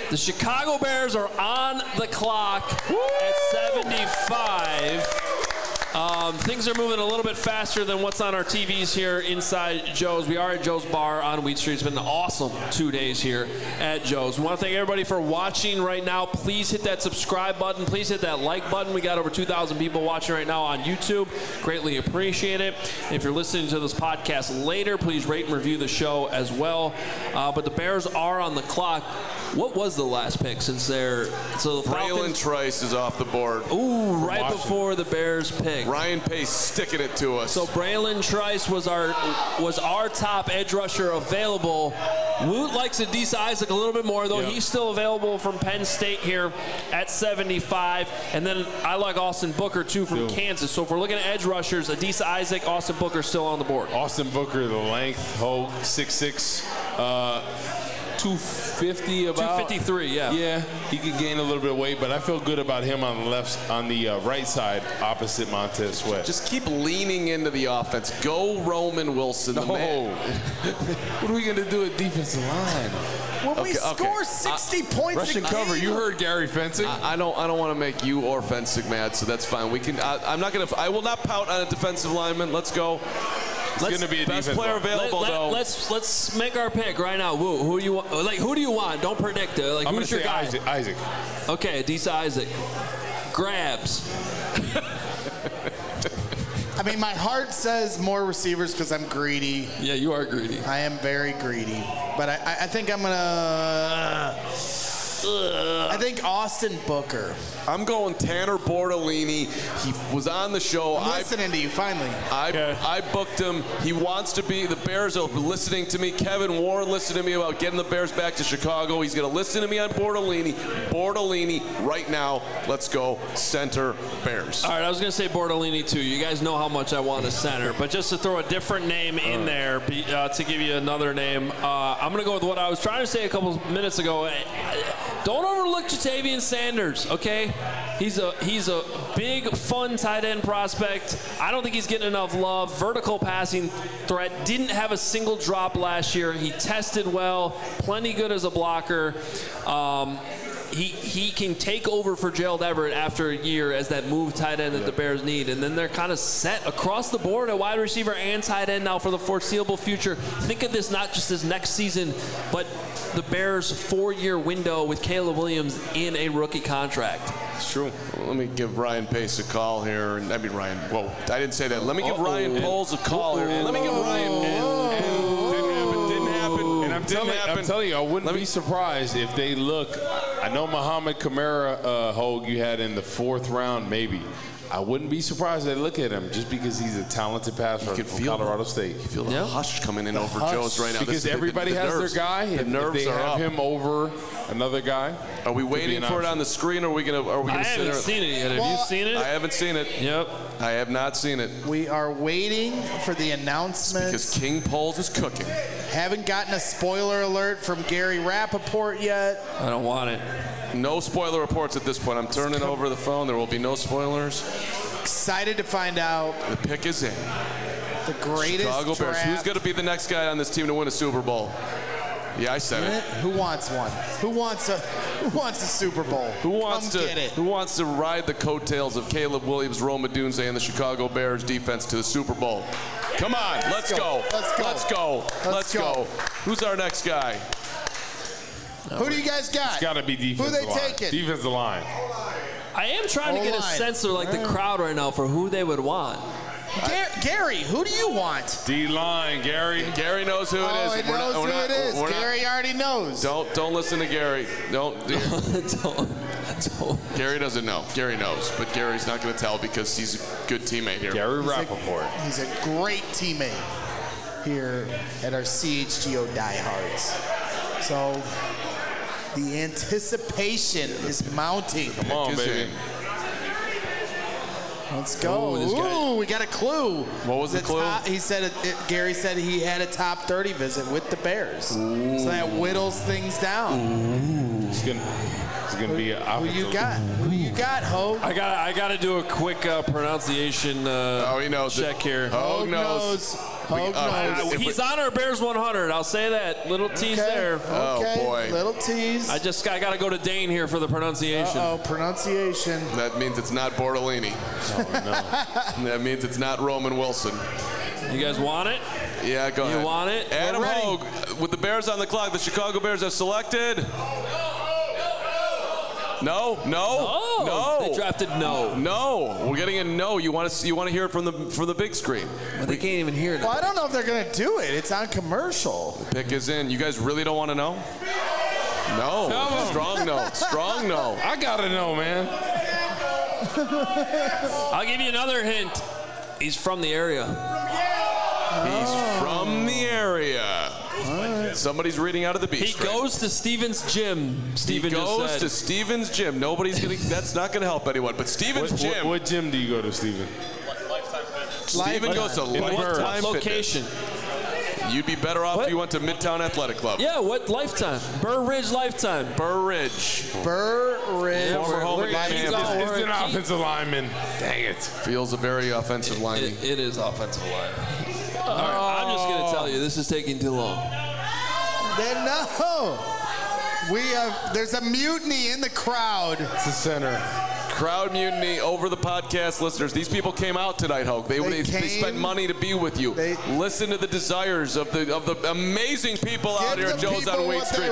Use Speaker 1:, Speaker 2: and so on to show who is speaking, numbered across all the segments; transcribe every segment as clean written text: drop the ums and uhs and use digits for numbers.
Speaker 1: The Chicago Bears are on the clock at 75. Things are moving a little bit faster than what's on our TVs here inside Joe's. We are at Joe's Bar on Wheat Street. It's been an awesome 2 days here at Joe's. We want to thank everybody for watching right now. Please hit that subscribe button. Please hit that like button. We got over 2,000 people watching right now on YouTube. Greatly appreciate it. If you're listening to this podcast later, please rate and review the show as well. But the Bears are on the clock. What was the last pick since they're... So the
Speaker 2: Braylon Trice is off the board.
Speaker 1: Ooh, right before the Bears pick.
Speaker 2: Ryan Pace sticking it to us.
Speaker 1: So Braylon Trice was our top edge rusher available. Woot likes Adisa Isaac a little bit more, though. Yep. He's still available from Penn State here at 75. And then I like Austin Booker, too, from Kansas. So if we're looking at edge rushers, Adisa Isaac, Austin Booker still on the board.
Speaker 3: Austin Booker, the length, 6'6", 250 about.
Speaker 1: 253, yeah.
Speaker 3: Yeah, he could gain a little bit of weight, but I feel good about him on the right side, opposite Montez Sweat.
Speaker 2: Just keep leaning into the offense. Go Roman Wilson. The man.
Speaker 3: What are we going to do at defensive line?
Speaker 4: When we score 60 points
Speaker 3: Russian
Speaker 4: a game.
Speaker 3: cover. You heard Gary Fencing.
Speaker 2: I don't want to make you or Fencing mad, so that's fine. We can. I will not pout on a defensive lineman. Let's go.
Speaker 3: It's going to be a
Speaker 2: best player available, though.
Speaker 1: Let's make our pick right now. Who do you want? Who do you want? Don't predict it.
Speaker 3: I'm going to say
Speaker 1: guy?
Speaker 3: Isaac.
Speaker 1: Okay, Adisa Isaac. Grabs.
Speaker 4: I mean, my heart says more receivers because I'm greedy.
Speaker 1: Yeah, you are greedy.
Speaker 4: I am very greedy. But I think I'm going to... I think Austin Booker.
Speaker 2: I'm going Tanner Bortolini. He was on the show.
Speaker 4: I'm listening to you, finally.
Speaker 2: I booked him. He wants to be. The Bears are listening to me. Kevin Warren listened to me about getting the Bears back to Chicago. He's going to listen to me on Bortolini. Bortolini right now. Let's go center Bears.
Speaker 1: All right, I was going to say Bortolini, too. You guys know how much I want a center. But just to throw a different name in there, to give you another name, I'm going to go with what I was trying to say a couple minutes ago. Don't overlook Jatavian Sanders, okay? He's a big, fun tight end prospect. I don't think he's getting enough love. Vertical passing threat. Didn't have a single drop last year. He tested well. Plenty good as a blocker. He can take over for Gerald Everett after a year as that move tight end that the Bears need. And then they're kind of set across the board at wide receiver and tight end now for the foreseeable future. Think of this not just as next season, but the Bears' 4-year window with Caleb Williams in a rookie contract.
Speaker 2: It's true. Well, let me give Ryan Pace a call here. I mean, Ryan. Whoa, I didn't say that. Let me give Ryan Poles a call here. Let me give Ryan.
Speaker 3: Didn't happen. And I'm telling you, I wouldn't be surprised if they look. I know Muhammad Kamara, Hogue, you had in the 4th round, maybe. I wouldn't be surprised if they look at him just because he's a talented passer from Colorado State.
Speaker 2: You feel the hush coming in over Joe's right now.
Speaker 3: Because everybody has their guy.
Speaker 2: The nerves
Speaker 3: if they
Speaker 2: are
Speaker 3: have
Speaker 2: up.
Speaker 3: him over another guy.
Speaker 2: Are we waiting for it on the screen, or are we gonna
Speaker 1: I haven't seen it yet. Have you seen it?
Speaker 2: I haven't seen it.
Speaker 1: Yep.
Speaker 2: I have not seen it.
Speaker 4: We are waiting for the announcements.
Speaker 2: Because King Poles is cooking.
Speaker 4: Haven't gotten a spoiler alert from Gary Rappaport yet.
Speaker 1: I don't want it.
Speaker 2: No spoiler reports at this point. I'm turning over the phone. There will be no spoilers.
Speaker 4: Excited to find out.
Speaker 2: The pick is in.
Speaker 4: The greatest
Speaker 2: Chicago Bears.
Speaker 4: draft.
Speaker 2: Who's going to be the next guy on this team to win a Super Bowl? Yeah, I said it.
Speaker 4: Who wants one? Who wants a Super Bowl?
Speaker 2: Who wants
Speaker 4: Come get it.
Speaker 2: Who wants to ride the coattails of Caleb Williams, Rome Odunze, and the Chicago Bears defense to the Super Bowl? Come on, let's go. Let's go. Who's our next guy?
Speaker 4: Who do you guys got?
Speaker 3: It's got to be defensive line.
Speaker 4: Who they taking?
Speaker 3: Defensive line.
Speaker 1: I am trying to get a sense of the crowd right now for who they would want.
Speaker 4: Gary, who do you want?
Speaker 3: D-line, Gary.
Speaker 2: Gary knows who it is.
Speaker 4: He knows who it is. Gary already knows.
Speaker 2: Don't listen to Gary. Don't. Gary doesn't know. Gary knows, but Gary's not going to tell because he's a good teammate here.
Speaker 3: Gary Rappaport.
Speaker 4: He's a great teammate here at our CHGO diehards. So the anticipation is mounting.
Speaker 3: Come on, baby.
Speaker 4: Let's go. Ooh, we got a clue.
Speaker 2: What was the clue?
Speaker 4: He said Gary said he had a top 30 visit with the Bears. Ooh. So that whittles things down.
Speaker 3: Ooh. It's gonna be an
Speaker 4: Who you got? Who you got, Hogue?
Speaker 1: I got to do a quick pronunciation
Speaker 2: he knows
Speaker 1: check here.
Speaker 2: Hogue knows.
Speaker 1: He's on our Bears 100. I'll say that. Little tease there.
Speaker 4: Okay.
Speaker 2: Oh, boy.
Speaker 4: Little tease.
Speaker 1: I got to go to Dane here for the pronunciation.
Speaker 4: Pronunciation.
Speaker 2: That means it's not Bortolini.
Speaker 3: Oh, no.
Speaker 2: That means it's not Roman Wilson.
Speaker 1: You guys want it?
Speaker 2: Yeah, go ahead.
Speaker 1: You want it?
Speaker 2: Adam Hogue, with the Bears on the clock, the Chicago Bears have selected. No.
Speaker 1: They drafted no.
Speaker 2: No. We're getting a no. You want to hear it from the big screen.
Speaker 1: But they can't even hear it.
Speaker 4: Well, I don't know if they're going to do it. It's on commercial.
Speaker 2: The pick is in. You guys really don't want to know? No. Strong no. Strong no.
Speaker 3: I gotta know, man.
Speaker 1: I'll give you another hint. He's from the area.
Speaker 2: He's from the area. Somebody's reading out of the beach.
Speaker 1: He goes to Stevens Gym. Steven
Speaker 2: He goes
Speaker 1: just said.
Speaker 2: to Stevens Gym. That's not going to help anyone. But Stevens Gym.
Speaker 3: What gym do you go to, Steven?
Speaker 2: Steven goes to Lifetime
Speaker 1: location.
Speaker 2: Fitness. You'd be better off if you went to Midtown Athletic Club.
Speaker 1: Yeah, what Lifetime? Burr Ridge Lifetime.
Speaker 2: Burr Ridge. Former home at Hampton.
Speaker 3: He's an offensive lineman. Dang it.
Speaker 2: Feels a very offensive lineman.
Speaker 1: It is offensive line. All right, I'm just going to tell you, this is taking too long.
Speaker 4: No. There's a mutiny in the crowd.
Speaker 3: It's the center.
Speaker 2: Crowd mutiny over the podcast listeners. These people came out tonight, Hogue. They spent money to be with you. Listen to the desires of the amazing people out here at Joe's on Wait Street.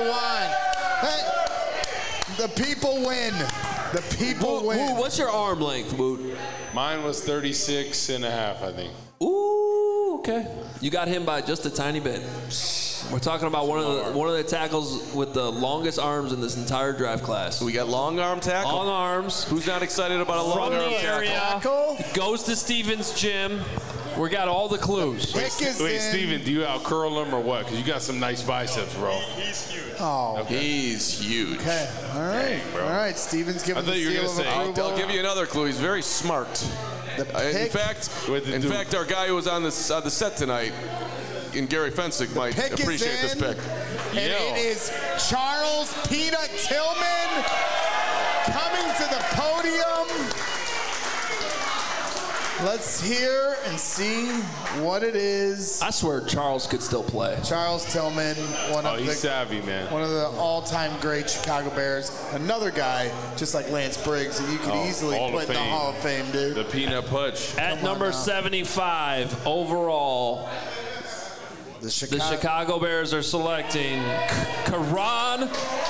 Speaker 4: The people win. The people win.
Speaker 1: What's your arm length, Woot?
Speaker 3: Mine was 36 and a half, I think.
Speaker 1: Ooh, okay. You got him by just a tiny bit. We're talking about one of the tackles with the longest arms in this entire draft class.
Speaker 2: We got long arm tackle.
Speaker 1: Long arms.
Speaker 2: Who's not excited about a long arm
Speaker 1: tackle? Goes to Stevens Gym. We got all the clues.
Speaker 3: Wait, Steven, do you out curl him or what? Because you got some nice biceps, bro.
Speaker 5: He's huge.
Speaker 4: Oh,
Speaker 2: okay. He's huge.
Speaker 4: Okay, all right,
Speaker 3: bro.
Speaker 4: All right. Steven's giving the seal of approval.
Speaker 2: I'll give you another clue. He's very smart. In fact, our guy who was on the set tonight, and Gary Fensick, might appreciate this pick.
Speaker 4: And it is Charles Peanut Tillman coming to the podium. Let's hear and see what it is.
Speaker 1: I swear Charles could still play.
Speaker 4: Charles Tillman,
Speaker 3: he's savvy, man.
Speaker 4: One of the all-time great Chicago Bears. Another guy, just like Lance Briggs, that you could easily put in the Hall of Fame, dude.
Speaker 3: The Peanut Putsch.
Speaker 1: At number 75 overall, the Chicago Bears are selecting Karan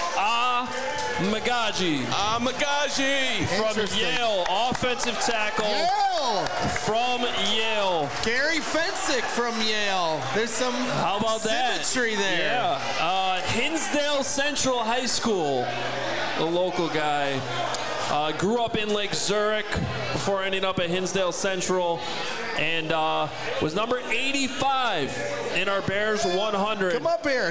Speaker 1: Magaji.
Speaker 2: Magaji.
Speaker 1: From Yale, offensive tackle.
Speaker 4: Yale.
Speaker 1: From Yale.
Speaker 4: Gary Fensick from Yale. There's some symmetry there.
Speaker 1: Yeah. Hinsdale Central High School, the local guy. Grew up in Lake Zurich before ending up at Hinsdale Central, and was number 85 in our Bears 100.
Speaker 4: Come up here.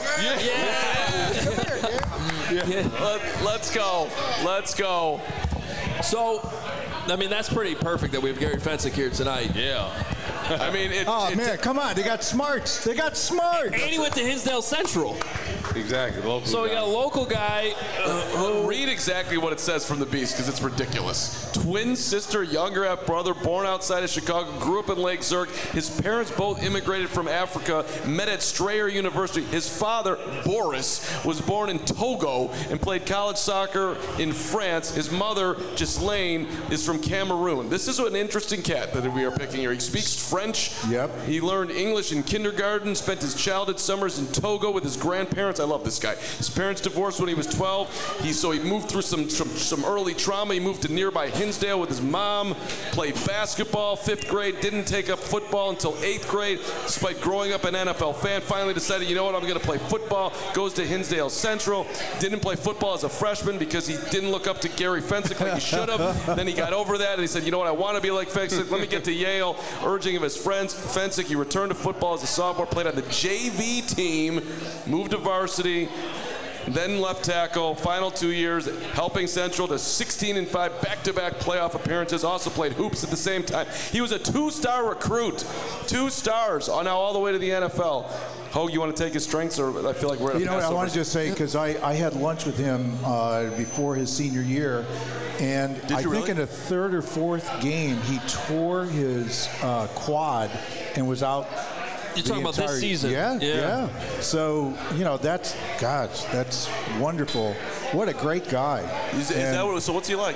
Speaker 2: Let's go. Let's go.
Speaker 1: So, I mean, that's pretty perfect that we have Gary Fensick here tonight.
Speaker 2: Yeah. I mean,
Speaker 6: man, come on. They got smarts. They got smarts.
Speaker 1: And he went to Hinsdale Central.
Speaker 3: Exactly.
Speaker 1: So we got a local guy.
Speaker 2: Read exactly what it says from the Beast, because it's ridiculous. Twin sister, younger half brother, born outside of Chicago, grew up in Lake Zurich. His parents both immigrated from Africa, met at Strayer University. His father, Boris, was born in Togo and played college soccer in France. His mother, Ghislaine, is from Cameroon. This is an interesting cat that we are picking here. He speaks French.
Speaker 6: Yep.
Speaker 2: He learned English in kindergarten, spent his childhood summers in Togo with his grandparents. I love this guy. His parents divorced when he was 12. He moved through some early trauma. He moved to nearby Hinsdale with his mom, played basketball, 5th grade, didn't take up football until 8th grade, despite growing up an NFL fan. Finally decided, you know what, I'm going to play football. Goes to Hinsdale Central. Didn't play football as a freshman because he didn't look up to Gary Fensick like he should have. Then he got over that and he said, you know what, I want to be like Fensick. Let me get to Yale. Urging of his friends, Fensick, he returned to football as a sophomore, played on the JV team, moved to varsity, then left tackle. Final 2 years, helping Central to 16-5 back-to-back playoff appearances. Also played hoops at the same time. He was a 2-star recruit. 2 stars, now all the way to the NFL. Hogue, you want to take his strengths, or I feel like we're at a
Speaker 6: I wanted to say, because I had lunch with him before his senior year, and I think in the 3rd or 4th game, he tore his quad and was out
Speaker 1: You're talking about this season.
Speaker 6: Yeah. So, that's wonderful. What a great guy.
Speaker 2: So what's he like?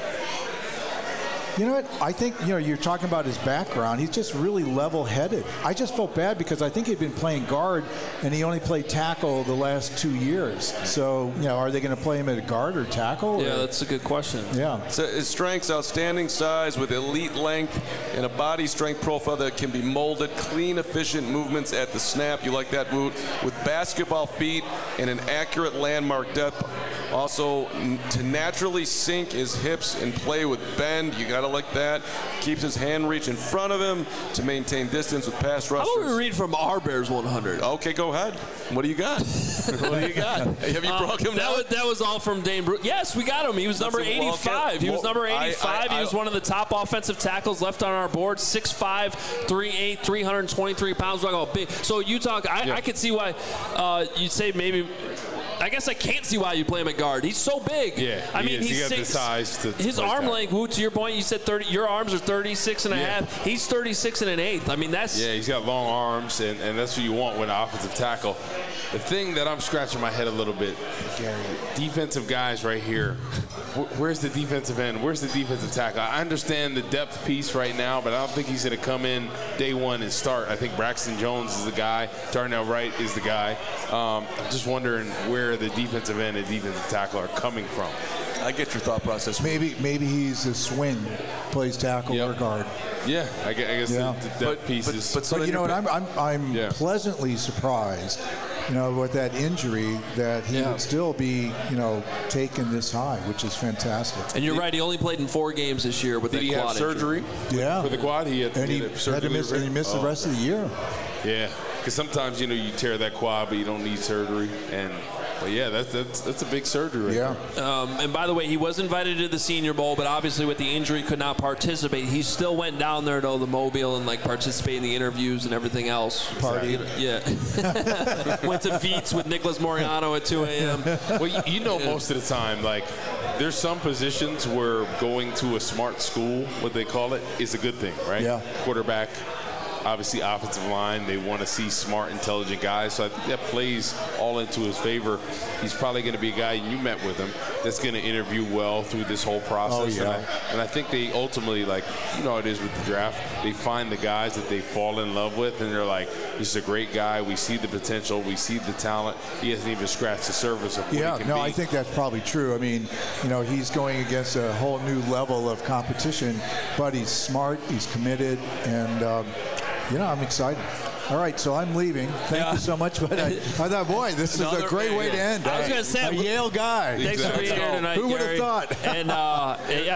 Speaker 6: You know what? I think, you're talking about his background. He's just really level-headed. I just felt bad because I think he'd been playing guard, and he only played tackle the last 2 years. So, are they going to play him at a guard or tackle?
Speaker 1: Yeah, that's a good question.
Speaker 6: Yeah.
Speaker 2: So his strengths, outstanding size with elite length and a body strength profile that can be molded, clean, efficient movements at the snap. You like that, Woot? With basketball feet and an accurate landmark depth. Also, to naturally sink his hips and play with bend. You got to like that. Keeps his hand reach in front of him to maintain distance with pass rushers.
Speaker 1: How about we read from our Bears 100?
Speaker 2: Okay, go ahead. What do you got? What do you got? Have you broke him down?
Speaker 1: That was all from Dane Brugler. Yes, we got him. He was number 85. He was number 85. He was one of the top offensive tackles left on our board. 6'5", 3'8", 323 pounds. So you talk. I could see why you'd say maybe. I guess I can't see why you play him at guard. He's so big.
Speaker 3: Yeah,
Speaker 1: I mean,
Speaker 3: he's got the size to
Speaker 1: his arm length. Woot, to your point, you said 30. Your arms are 36 and a half. He's 36 and an eighth. I mean, that's.
Speaker 3: Yeah, he's got long arms, and that's what you want with an offensive tackle. The thing that I'm scratching my head a little bit, Gary, defensive guys right here. Where's the defensive end? Where's the defensive tackle? I understand the depth piece right now, but I don't think he's going to come in day one and start. I think Braxton Jones is the guy. Darnell Wright is the guy. I'm just wondering where the defensive end and defensive tackle are coming from.
Speaker 2: I get your thought process.
Speaker 6: Maybe he's a swing, plays tackle or guard.
Speaker 3: Yeah, I guess the depth piece is.
Speaker 6: But you know what? I'm pleasantly surprised. With that injury, that he would still be, taken this high, which is fantastic.
Speaker 1: And you're right. He only played in 4 games this year with that quad
Speaker 3: have surgery.
Speaker 6: Yeah,
Speaker 3: for the quad, he had surgery.
Speaker 6: And he missed the rest of the year.
Speaker 3: Yeah, because sometimes you tear that quad, but you don't need surgery. But yeah, that's a big surgery.
Speaker 6: Yeah.
Speaker 1: And by the way, he was invited to the Senior Bowl, but obviously with the injury could not participate. He still went down there to the Mobile and participate in the interviews and everything else.
Speaker 6: Party.
Speaker 1: Yeah. Went to Veets with Nicholas Moriano at 2 a.m.
Speaker 3: Well, most of the time, there's some positions where going to a smart school, what they call it, is a good thing, right?
Speaker 6: Yeah.
Speaker 3: Quarterback. Obviously, offensive line, they want to see smart, intelligent guys. So I think that plays all into his favor. He's probably going to be a guy, you met with him, that's going to interview well through this whole process.
Speaker 6: Oh, yeah.
Speaker 3: And I think they ultimately, how it is with the draft, they find the guys that they fall in love with, and they're like, this is a great guy. We see the potential. We see the talent. He hasn't even scratched the surface of what he can be.
Speaker 6: I think that's probably true. I mean, he's going against a whole new level of competition, but he's smart, he's committed, and I'm excited. All right, so I'm leaving. Thank you so much. But I thought, boy, this is a great way to end.
Speaker 1: I was going to say,
Speaker 6: a Yale guy.
Speaker 1: Thanks for being here tonight,
Speaker 6: Who would have thought?
Speaker 1: And on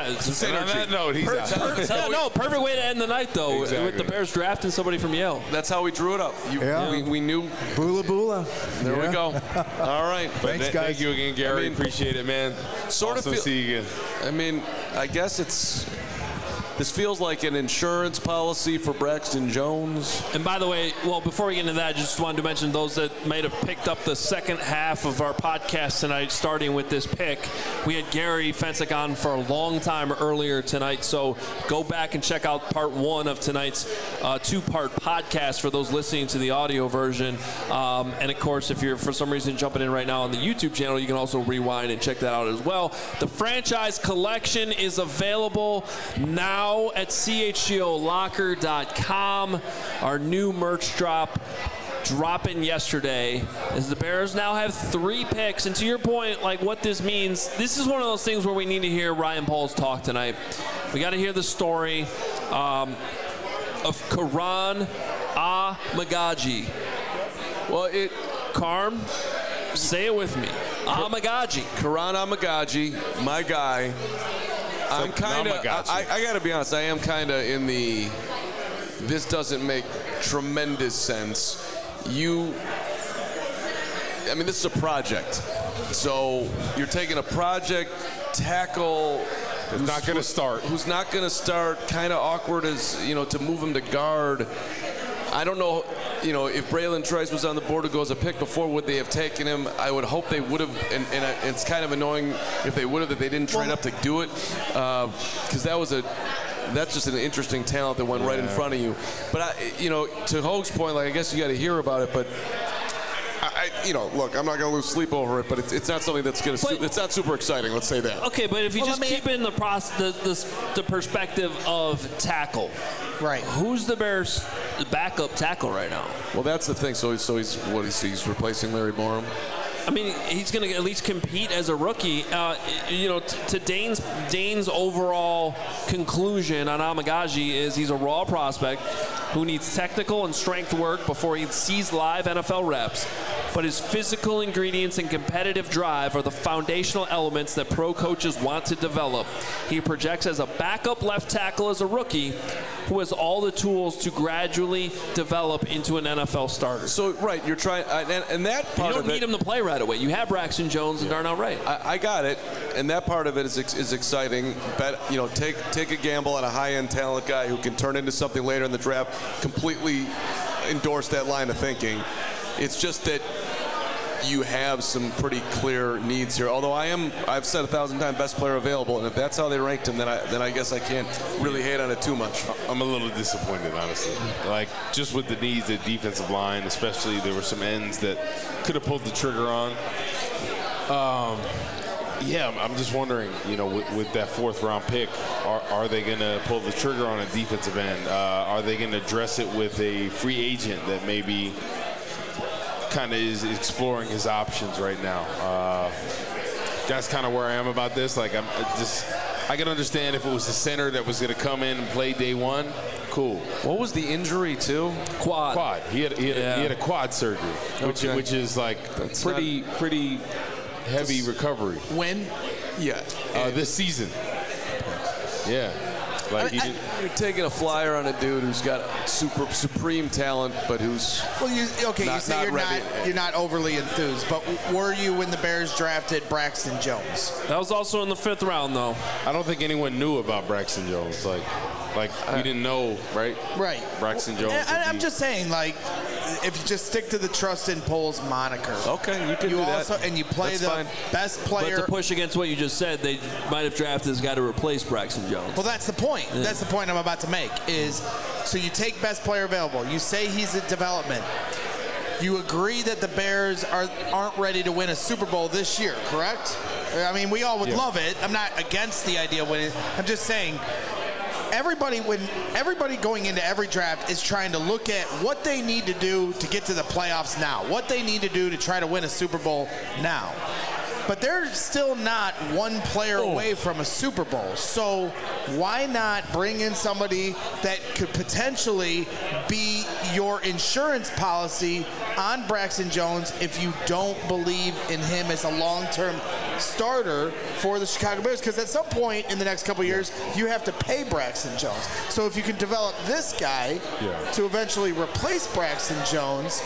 Speaker 3: that note, he's out.
Speaker 1: Perfect way to end the night, though, with the Bears drafting somebody from Yale.
Speaker 2: That's how we drew it up. We knew.
Speaker 6: Bula bula.
Speaker 2: There we go. All right.
Speaker 6: Thanks, guys.
Speaker 3: Thank you again, Gary. Appreciate it, man. See you again.
Speaker 2: I mean, I guess this feels like an insurance policy for Braxton Jones.
Speaker 1: And by the way, before we get into that, I just wanted to mention those that might have picked up the second half of our podcast tonight, starting with this pick. We had Gary Fencik on for a long time earlier tonight, so go back and check out part 1 of tonight's 2-part podcast for those listening to the audio version. And of course, if you're for some reason jumping in right now on the YouTube channel, you can also rewind and check that out as well. The franchise collection is available now at chgolocker.com. Our new merch dropping yesterday, as the Bears now have 3 picks. And to your point, what this means, this is one of those things where we need to hear Ryan Poles talk tonight. We got to hear the story of Karan Amagaji. Carm, say it with me. Amagaji.
Speaker 2: Karan Amagaji, my guy. I'm kind of, I got to be honest, I am kind of in the, this doesn't make tremendous sense. This is a project. So you're taking a project tackle
Speaker 3: who's not going to start.
Speaker 2: Who's not going to start, kind of awkward as, to move him to guard. I don't know, if Braylon Trice was on the board to go as a pick before, would they have taken him? I would hope they would have, and it's kind of annoying if they would have, that they didn't trade up to do it, because that was that's just an interesting talent that went right in front of you. But to Hoge's point, I guess you got to hear about it, but. Look, I'm not going to lose sleep over it, but it's not something that's going to. It's not super exciting. Let's say that.
Speaker 1: Okay, but if you just keep it in the perspective of tackle,
Speaker 4: right?
Speaker 1: Who's the Bears' backup tackle right now?
Speaker 2: Well, that's the thing. So he's replacing Larry Borom.
Speaker 1: I mean, he's going to at least compete as a rookie. To Dane's overall conclusion on Amegadjie is he's a raw prospect who needs technical and strength work before he sees live NFL reps. But his physical ingredients and competitive drive are the foundational elements that pro coaches want to develop. He projects as a backup left tackle as a rookie who has all the tools to gradually develop into an NFL starter.
Speaker 2: So, right, you're trying, and that part of it.
Speaker 1: You don't need him to play right away. You have Braxton Jones and Darnell Wright.
Speaker 2: I got it, and that part of it is exciting. Take a gamble on a high-end talent guy who can turn into something later in the draft. Completely endorse that line of thinking. It's just that you have some pretty clear needs here. Although I've said 1,000 times best player available, and if that's how they ranked him, then I guess I can't really hate on it too much.
Speaker 3: I'm a little disappointed, honestly. Just with the needs, the defensive line, especially, there were some ends that could have pulled the trigger on. I'm just wondering, with that 4th round pick, are they going to pull the trigger on a defensive end? Are they going to address it with a free agent that maybe kind of is exploring his options right now? That's kind of where I am about this. I can understand if it was a center that was going to come in and play day one. Cool.
Speaker 2: What was the injury to?
Speaker 1: Quad.
Speaker 3: He had a quad surgery, which is pretty heavy recovery.
Speaker 4: When?
Speaker 2: Yeah.
Speaker 3: This season. Yeah.
Speaker 2: You're taking a flyer on a dude who's got supreme talent, but who's
Speaker 4: you say you're not overly enthused, but were you when the Bears drafted Braxton Jones?
Speaker 1: That was also in the 5th round, though.
Speaker 3: I don't think anyone knew about Braxton Jones. We didn't know, right?
Speaker 4: Right.
Speaker 3: Braxton Jones.
Speaker 4: I'm just saying, if you just stick to the Trustin Poles moniker.
Speaker 2: Okay, you can do that.
Speaker 4: And you play best player.
Speaker 1: But to push against what you just said, they might have drafted this guy to replace Braxton Jones.
Speaker 4: Well, that's the point. Yeah. That's the point I'm about to make is, so you take best player available. You say he's in development. You agree that the Bears aren't ready to win a Super Bowl this year, correct? I mean, we all would love it. I'm not against the idea of winning. I'm just saying, everybody going into every draft is trying to look at what they need to do to get to the playoffs now, what they need to do to try to win a Super Bowl now. But they're still not one player away from a Super Bowl. So why not bring in somebody that could potentially be your insurance policy on Braxton Jones if you don't believe in him as a long-term starter for the Chicago Bears? Because at some point in the next couple of years, you have to pay Braxton Jones. So if you can develop this guy to eventually replace Braxton Jones,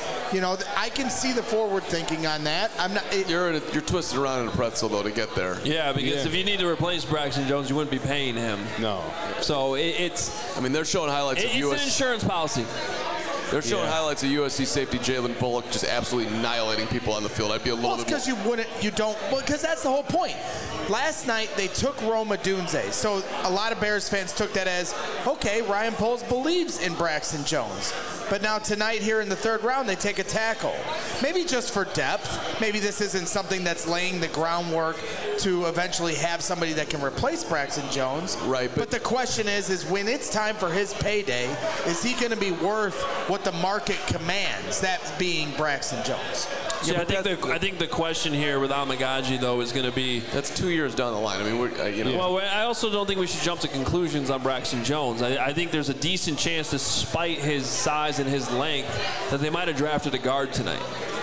Speaker 4: I can see the forward thinking on that.
Speaker 2: You're twisted around in a pretzel though to get there.
Speaker 1: Yeah, because if you need to replace Braxton Jones, you wouldn't be paying him.
Speaker 3: No.
Speaker 1: So it's.
Speaker 2: I mean, they're showing highlights of
Speaker 1: It's an insurance policy.
Speaker 2: They're showing highlights of USC safety Jalen Bullock just absolutely annihilating people on the field. I'd be a little bit.
Speaker 4: Because because that's the whole point. Last night they took Rome Odunze, so a lot of Bears fans took that as, okay, Ryan Poles believes in Braxton Jones. But now tonight here in the 3rd round, they take a tackle. Maybe just for depth. Maybe this isn't something that's laying the groundwork to eventually have somebody that can replace Braxton Jones.
Speaker 2: Right.
Speaker 4: But the question is when it's time for his payday, is he going to be worth what the market commands, that being Braxton Jones?
Speaker 1: See, I think the question here with Amegadjie, though, is going to be...
Speaker 2: That's 2 years down the line. I mean,
Speaker 1: Well, I also don't think we should jump to conclusions on Braxton Jones. I think there's a decent chance, despite his size and his length, that they might have drafted a guard tonight.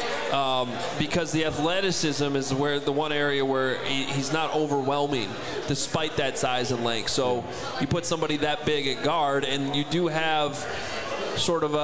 Speaker 1: Because the athleticism is the one area where he's not overwhelming, despite that size and length. So you put somebody that big at guard, and you do have sort of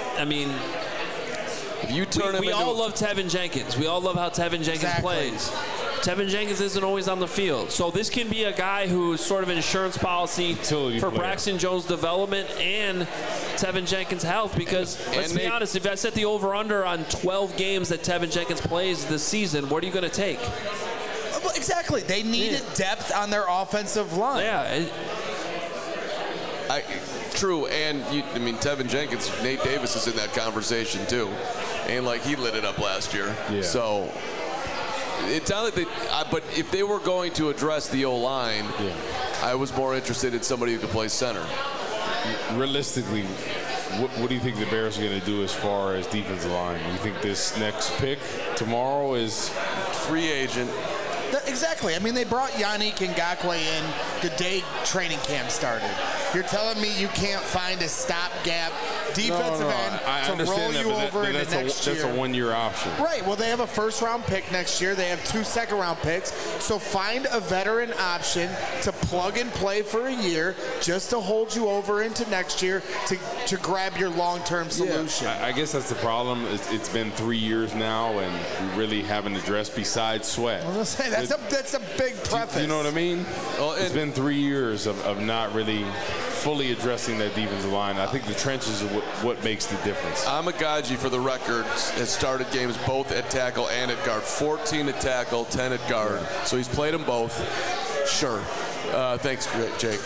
Speaker 1: we all love Tevin Jenkins. We all love how Tevin Jenkins plays. Tevin Jenkins isn't always on the field. So this can be a guy who's sort of insurance policy for Braxton Jones' development and Tevin Jenkins' health. Because let's be honest, if I set the over-under on 12 games that Tevin Jenkins plays this season, what are you going to take?
Speaker 4: Exactly. They needed depth on their offensive line.
Speaker 1: Yeah.
Speaker 2: True, and Tevin Jenkins, Nate Davis is in that conversation too, and he lit it up last year.
Speaker 3: Yeah.
Speaker 2: So it sounded like but if they were going to address the O-line, I was more interested in somebody who could play center.
Speaker 3: Realistically, what do you think the Bears are going to do as far as defensive line? You think this next pick tomorrow is
Speaker 2: free agent?
Speaker 4: Exactly. They brought Yannick Ngakoue in the day training camp started. You're telling me you can't find a stopgap defensive end to roll you over into next year?
Speaker 3: That's a one-year option.
Speaker 4: Right. Well, they have a first-round pick next year. They have 2 second-round picks. So find a veteran option to plug and play for a year just to hold you over into next year to grab your long-term solution.
Speaker 3: I guess that's the problem. It's been 3 years now, and we really haven't addressed besides Sweat.
Speaker 4: Well, let's say that's a big preface.
Speaker 3: You know what I mean? Well, it's been 3 years of not really fully addressing that defensive line. I think the trenches are what makes the difference.
Speaker 2: Amagaji, for the record, has started games both at tackle and at guard. 14 at tackle, 10 at guard. So he's played them both. Sure. Thanks, Jake.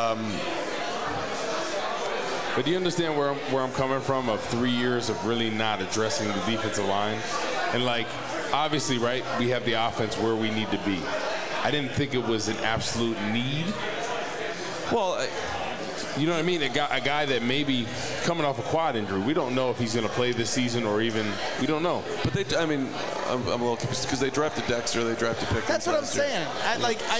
Speaker 3: But do you understand where I'm coming from of 3 years of really not addressing the defensive line? And obviously, right, we have the offense where we need to be. I didn't think it was an absolute need. Well, you know what I mean? A guy that maybe coming off a quad injury, we don't know if he's going to play this season or even, we don't know.
Speaker 2: But I'm a little confused because they drafted Dexter, they drafted Pickens.
Speaker 4: That's what I'm saying. I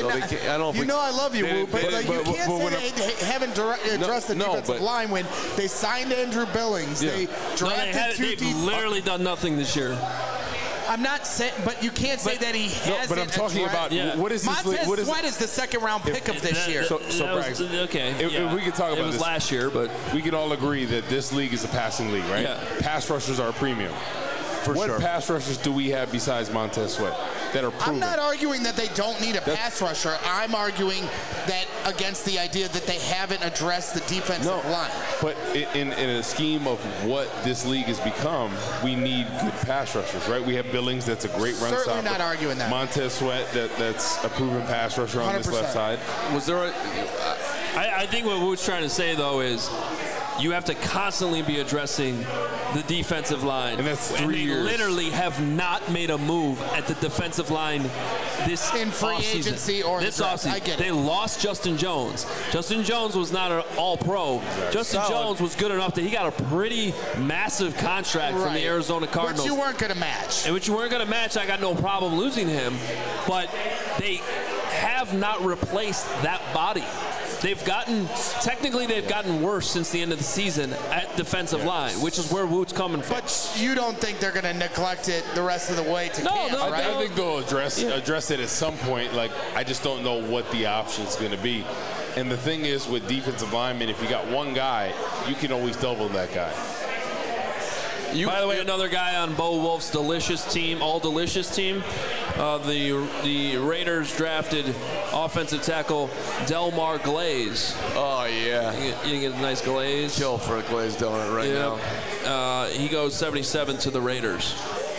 Speaker 4: love you, Woo, but you can't say they haven't addressed the defensive line when they signed Andrew Billings. They drafted
Speaker 1: they've literally done nothing this year.
Speaker 4: I'm not saying, but you can't say that he hasn't.
Speaker 3: But I'm talking about what is this?
Speaker 4: Montez Sweat is the second-round pick of this year.
Speaker 3: So if we could talk about
Speaker 1: it was
Speaker 3: this
Speaker 1: last year, but
Speaker 3: we could all agree that this league is a passing league, right?
Speaker 1: Yeah.
Speaker 3: Pass rushers are a premium. What pass rushers do we have besides Montez Sweat that are proven?
Speaker 4: I'm not arguing that they don't need a pass rusher. I'm arguing that against the idea that they haven't addressed the defensive line.
Speaker 3: But in a scheme of what this league has become, we need good pass rushers, right? We have Billings, that's a great run stopper.
Speaker 4: Certainly not arguing that.
Speaker 3: Montez Sweat, that's a proven pass rusher on 100%. This left side.
Speaker 2: Was there
Speaker 1: I think what Wood's trying to say, though, is you have to constantly be addressing the defensive line.
Speaker 3: And that's 3 years.
Speaker 1: They literally have not made a move at the defensive line this
Speaker 4: in free agency or
Speaker 1: this
Speaker 4: offseason. I get it.
Speaker 1: They lost Justin Jones. Justin Jones was not an all-pro. Right. Justin Jones was good enough that he got a pretty massive contract from the Arizona Cardinals.
Speaker 4: Which you weren't going to match.
Speaker 1: And which you weren't going to match. I got no problem losing him. But they have not replaced that body. They've gotten worse since the end of the season at defensive line, which is where Woot's coming from.
Speaker 4: But you don't think they're going to neglect it the rest of the way to camp, right?
Speaker 3: I think they'll address it at some point. I just don't know what the option's going to be. And the thing is, with defensive linemen, if you got one guy, you can always double that guy.
Speaker 1: By the way, another guy on Bo Wolf's delicious team, all delicious team. The Raiders drafted offensive tackle Delmar Glaze.
Speaker 2: Oh yeah,
Speaker 1: you get a nice glaze.
Speaker 2: Kill for a glazed donut right now.
Speaker 1: He goes 77 to the Raiders.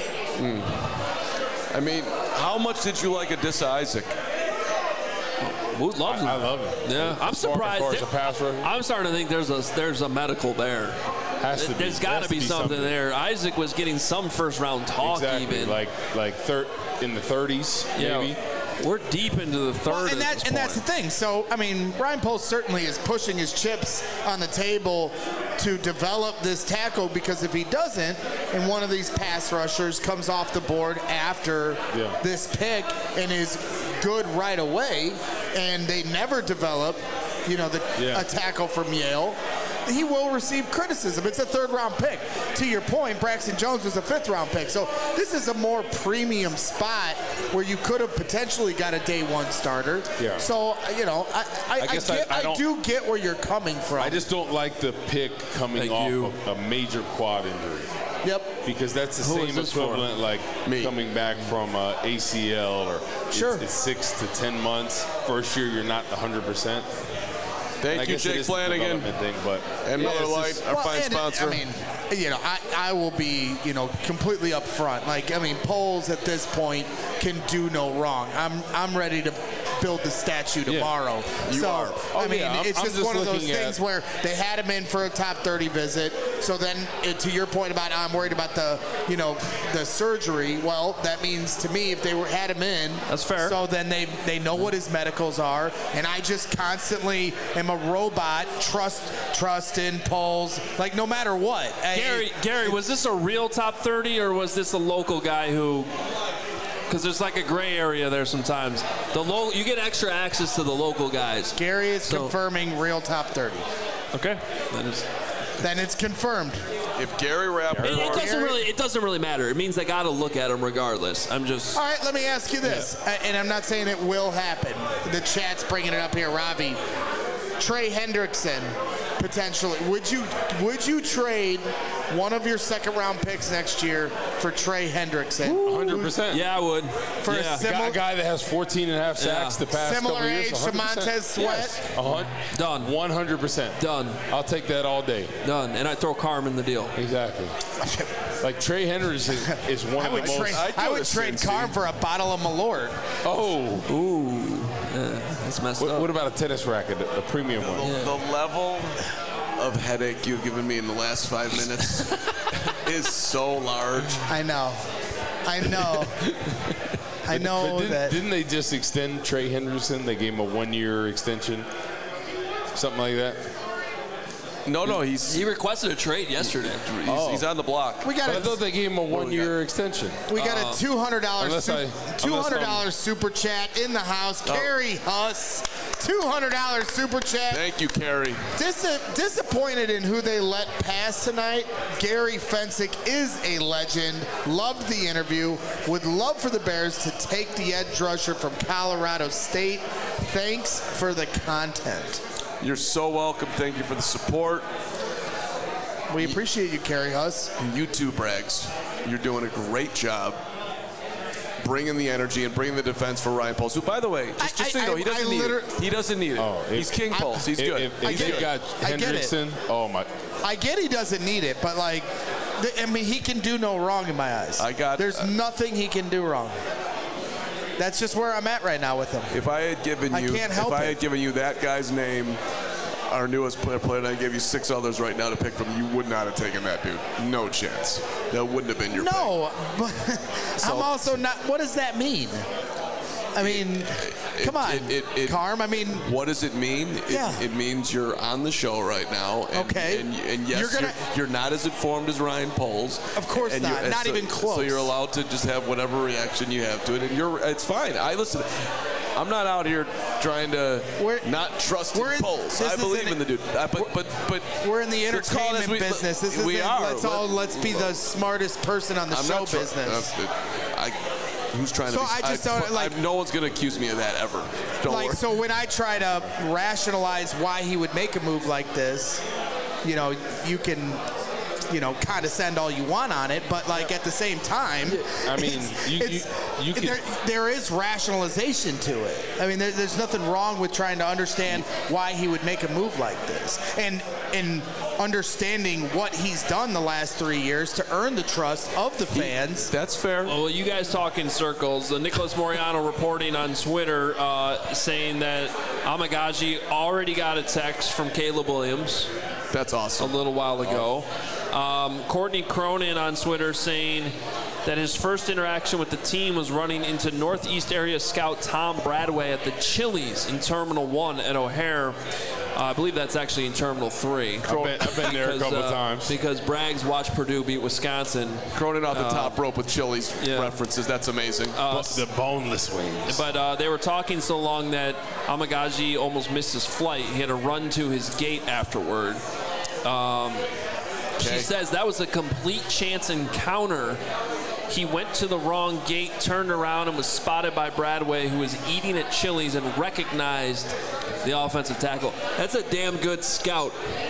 Speaker 2: I mean, how much did you like Adisa Isaac?
Speaker 1: Woot loves him.
Speaker 3: I love him.
Speaker 1: Yeah, I'm surprised. I'm starting to think there's a medical there. There's got to be something there. Isaac was getting some first-round talk, even
Speaker 3: like in the 30s, maybe.
Speaker 1: We're deep into the third.
Speaker 4: Well, and that's the thing. So, I mean, Ryan Poles certainly is pushing his chips on the table to develop this tackle, because if he doesn't, and one of these pass rushers comes off the board after this pick and is good right away, and they never develop, a tackle from Yale, he will receive criticism. It's a third-round pick. To your point, Braxton Jones was a fifth-round pick. So this is a more premium spot where you could have potentially got a day-one starter. Yeah. So, I do get where you're coming from.
Speaker 3: I just don't like the pick coming off of a major quad injury.
Speaker 4: Yep.
Speaker 3: Because that's the same equivalent coming back from ACL or it's 6 to 10 months. First year, you're not 100%.
Speaker 2: Thank you, Jake Flanagan. And Miller Lite, our fine sponsor.
Speaker 4: I mean, I will be, completely upfront. Poles at this point can do no wrong. I'm ready to build the statue tomorrow. I mean, it's just one of those things where they had him in for a top 30 visit. So then, to your point about I'm worried about the surgery. Well, that means to me if they had him in,
Speaker 1: that's fair.
Speaker 4: So then they know what his medicals are, and I just constantly am a robot. Trust in polls, like no matter what.
Speaker 1: Gary, was this a real top 30 or was this a local guy who? Because there's like a gray area there sometimes. You get extra access to the local guys.
Speaker 4: Gary is confirming real top 30.
Speaker 1: Okay,
Speaker 4: then it's confirmed.
Speaker 2: If Gary Rappaport,
Speaker 1: it doesn't really matter. It means they got to look at him regardless. All
Speaker 4: right. Let me ask you this, and I'm not saying it will happen. The chat's bringing it up here, Ravi. Trey Hendrickson, potentially. Would you trade one of your second-round picks next year for Trey Hendrickson?
Speaker 3: 100%.
Speaker 1: Yeah, I would.
Speaker 4: For a
Speaker 3: guy that has 14 and a half sacks the past couple
Speaker 4: similar
Speaker 3: years.
Speaker 4: Similar age to Montez Sweat?
Speaker 3: Yes.
Speaker 1: Done.
Speaker 3: 100%.
Speaker 1: Done.
Speaker 3: I'll take that all day.
Speaker 1: Done. And I throw Carm in the deal.
Speaker 3: Exactly. Like Trey Henderson is one of the most.
Speaker 4: I would trade Carm for a bottle of Malort.
Speaker 3: Oh.
Speaker 1: Ooh. That's messed up.
Speaker 3: What about a tennis racket, a premium one?
Speaker 2: The level of headache you've given me in the last 5 minutes is so large.
Speaker 4: I know.
Speaker 3: Didn't they just extend Trey Henderson? They gave him a 1-year extension, something like that.
Speaker 2: No,
Speaker 1: he requested a trade yesterday.
Speaker 2: He's on the block.
Speaker 3: I thought they gave him a 1-year extension.
Speaker 4: We got a $200 super chat in the house. Carrie Huss, $200 super chat.
Speaker 2: Thank you, Carrie.
Speaker 4: Disappointed in who they let pass tonight. Gary Fensick is a legend. Loved the interview. Would love for the Bears to take the edge rusher from Colorado State. Thanks for the content.
Speaker 2: You're so welcome. Thank you for the support.
Speaker 4: We appreciate you, Carrie Huss.
Speaker 2: And you too, Braggs. You're doing a great job bringing the energy and bringing the defense for Ryan Poles, who, by the way, just so you know, he doesn't need it. He doesn't need it. He's King Poles. He's good.
Speaker 3: If they got Hendrickson, oh my.
Speaker 4: I get he doesn't need it, but like, I mean, he can do no wrong in my eyes. There's nothing he can do wrong. That's just where I'm at right now with him.
Speaker 2: If I had given you that guy's name, our newest player, and I gave you 6 others right now to pick from, you would not have taken that dude. No chance. That wouldn't have been your pick.
Speaker 4: But I'm also not. What does that mean? I mean, come on, Carm. I mean,
Speaker 2: what does it mean? It means you're on the show right now. And, and yes, you're not as informed as Ryan Poles.
Speaker 4: Of course not. Not even close.
Speaker 2: So you're allowed to just have whatever reaction you have to it, and it's fine. I'm not out here trying to not trust Poles. I believe in the dude. But
Speaker 4: we're in the entertainment business. Let's be the smartest person on the show business.
Speaker 2: Who's trying to be? No one's going to accuse me of that ever. Don't worry.
Speaker 4: So when I try to rationalize why he would make a move like this, you can, condescend all you want on it, but like at the same time,
Speaker 3: I mean,
Speaker 4: there is rationalization to it. I mean, there's nothing wrong with trying to understand why he would make a move like this, and understanding what he's done the last 3 years to earn the trust of the fans.
Speaker 2: That's fair.
Speaker 1: Well, you guys talk in circles. Nicholas Moriano reporting on Twitter saying that Amagaji already got a text from Caleb Williams.
Speaker 2: That's awesome.
Speaker 1: A little while ago. Courtney Cronin on Twitter saying that his first interaction with the team was running into Northeast area scout Tom Bradway at the Chili's in Terminal 1 at O'Hare. I believe that's actually in Terminal 3.
Speaker 3: I've been there a couple of times.
Speaker 1: Because Braggs watched Purdue beat Wisconsin.
Speaker 2: Cronin off the top rope with Chili's references. That's amazing.
Speaker 3: The boneless wings.
Speaker 1: But they were talking so long that Amagaji almost missed his flight. He had to run to his gate afterward. She says that was a complete chance encounter. He went to the wrong gate, turned around, and was spotted by Bradway, who was eating at Chili's, and recognized the offensive tackle. That's a damn good scout.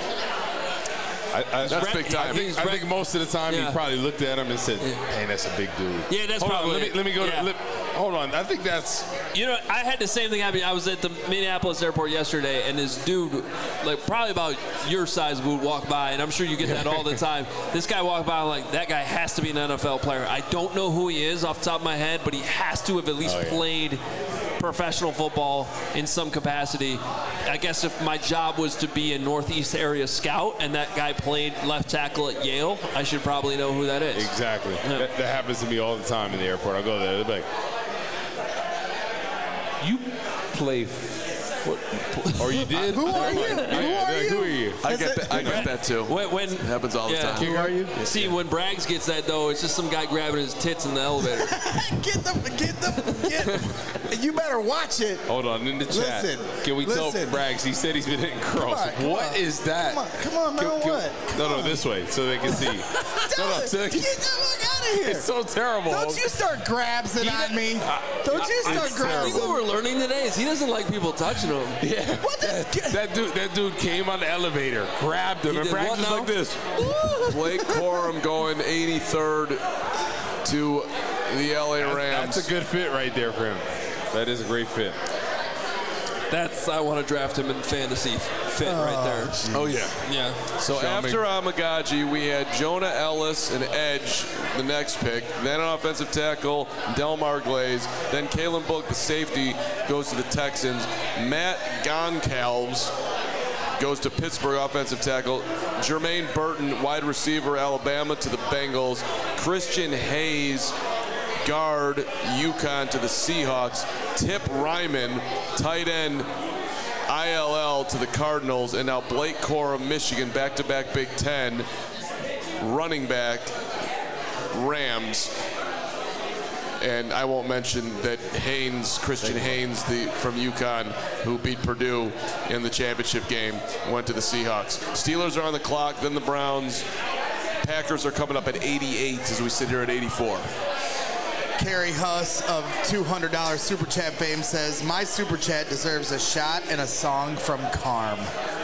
Speaker 3: That's big time. I think most of the time he probably looked at him and said, "Hey, that's a big dude."
Speaker 1: Yeah, that's probably.
Speaker 3: Let me go to. Hold on. I think that's.
Speaker 1: I had the same thing happen. I was at the Minneapolis airport yesterday, and this dude, like probably about your size, would walk by, and I'm sure you get that all the time. This guy walked by, I'm like, that guy has to be an NFL player. I don't know who he is off the top of my head, but he has to have at least played professional football in some capacity. I guess if my job was to be a Northeast area scout and that guy played left tackle at Yale, I should probably know who that is.
Speaker 3: Exactly.
Speaker 1: Yeah.
Speaker 3: That happens to me all the time in the airport. I'll go there. They'll be like, you play football. Or you did?
Speaker 4: Who are you?
Speaker 3: Who are you?
Speaker 2: I get that too.
Speaker 1: When
Speaker 2: it happens all the time.
Speaker 4: Who are you?
Speaker 1: See, when Braggs gets that, though, it's just some guy grabbing his tits in the elevator.
Speaker 4: You better watch it.
Speaker 3: Hold on, in the chat.
Speaker 4: Listen,
Speaker 3: Can we tell
Speaker 4: listen.
Speaker 3: Braggs? He said he's been hitting cross. What is that?
Speaker 4: Come on, man, what?
Speaker 3: No, this way, so they can see.
Speaker 4: Get the fuck out of here.
Speaker 3: It's so terrible.
Speaker 4: Don't you start grabsing on me. Don't you start
Speaker 1: I think
Speaker 4: grabbing.
Speaker 1: what we're learning today is he doesn't like people touching him.
Speaker 3: Yeah.
Speaker 4: What the?
Speaker 3: That dude came on the elevator, grabbed him, and
Speaker 1: did
Speaker 3: Braggs
Speaker 1: what
Speaker 3: was
Speaker 1: now?
Speaker 3: like this.
Speaker 2: Blake Corum going 83rd to the LA Rams.
Speaker 3: That's a good fit right there for him. That is a great fit.
Speaker 1: I want to draft him in fantasy fit right there.
Speaker 2: Oh, yeah.
Speaker 1: Yeah.
Speaker 2: So after Amagaji, we had Jonah Ellis and Edge, the next pick. Then an offensive tackle, Delmar Glaze. Then Kalen Book, the safety, goes to the Texans. Matt Goncalves goes to Pittsburgh, offensive tackle. Jermaine Burton, wide receiver, Alabama, to the Bengals. Christian Hayes, guard, UConn, to the Seahawks. Tip Ryman, tight end, ILL, to the Cardinals. And now Blake Corum, Michigan, back-to-back Big Ten, running back, Rams. And I won't mention that Christian Haynes, from UConn, who beat Purdue in the championship game, went to the Seahawks. Steelers are on the clock, then the Browns. Packers are coming up at 88 as we sit here at 84.
Speaker 4: Kerry Huss of $200 Super Chat fame says, my Super Chat deserves a shot and a song from Carm.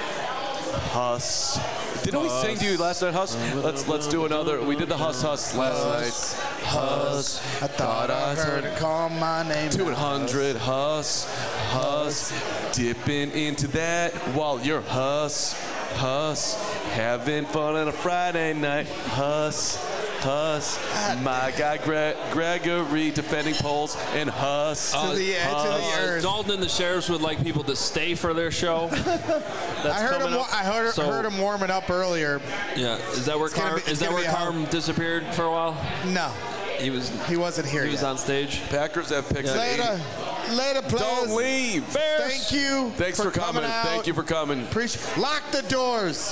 Speaker 2: Huss. Didn't we sing to you last night, Huss? Let's do another. We did the Huss last night. Huss.
Speaker 4: I thought I heard it call my name.
Speaker 2: 200 Huss. Dipping into that while you're Huss. Having fun on a Friday night. Huss. My guy Gregory defending poles and Huss.
Speaker 4: To the edge of the earth.
Speaker 1: Dalton and the Sheriffs would like people to stay for their show.
Speaker 4: I heard him warming up earlier.
Speaker 1: Yeah, is that where Carm disappeared for a while?
Speaker 4: No,
Speaker 1: he
Speaker 4: wasn't here.
Speaker 1: He was on stage.
Speaker 2: Packers have picks.
Speaker 4: Later, players.
Speaker 2: Don't leave.
Speaker 4: Thank you.
Speaker 2: Thanks for coming. Thank you for coming.
Speaker 4: Lock the doors.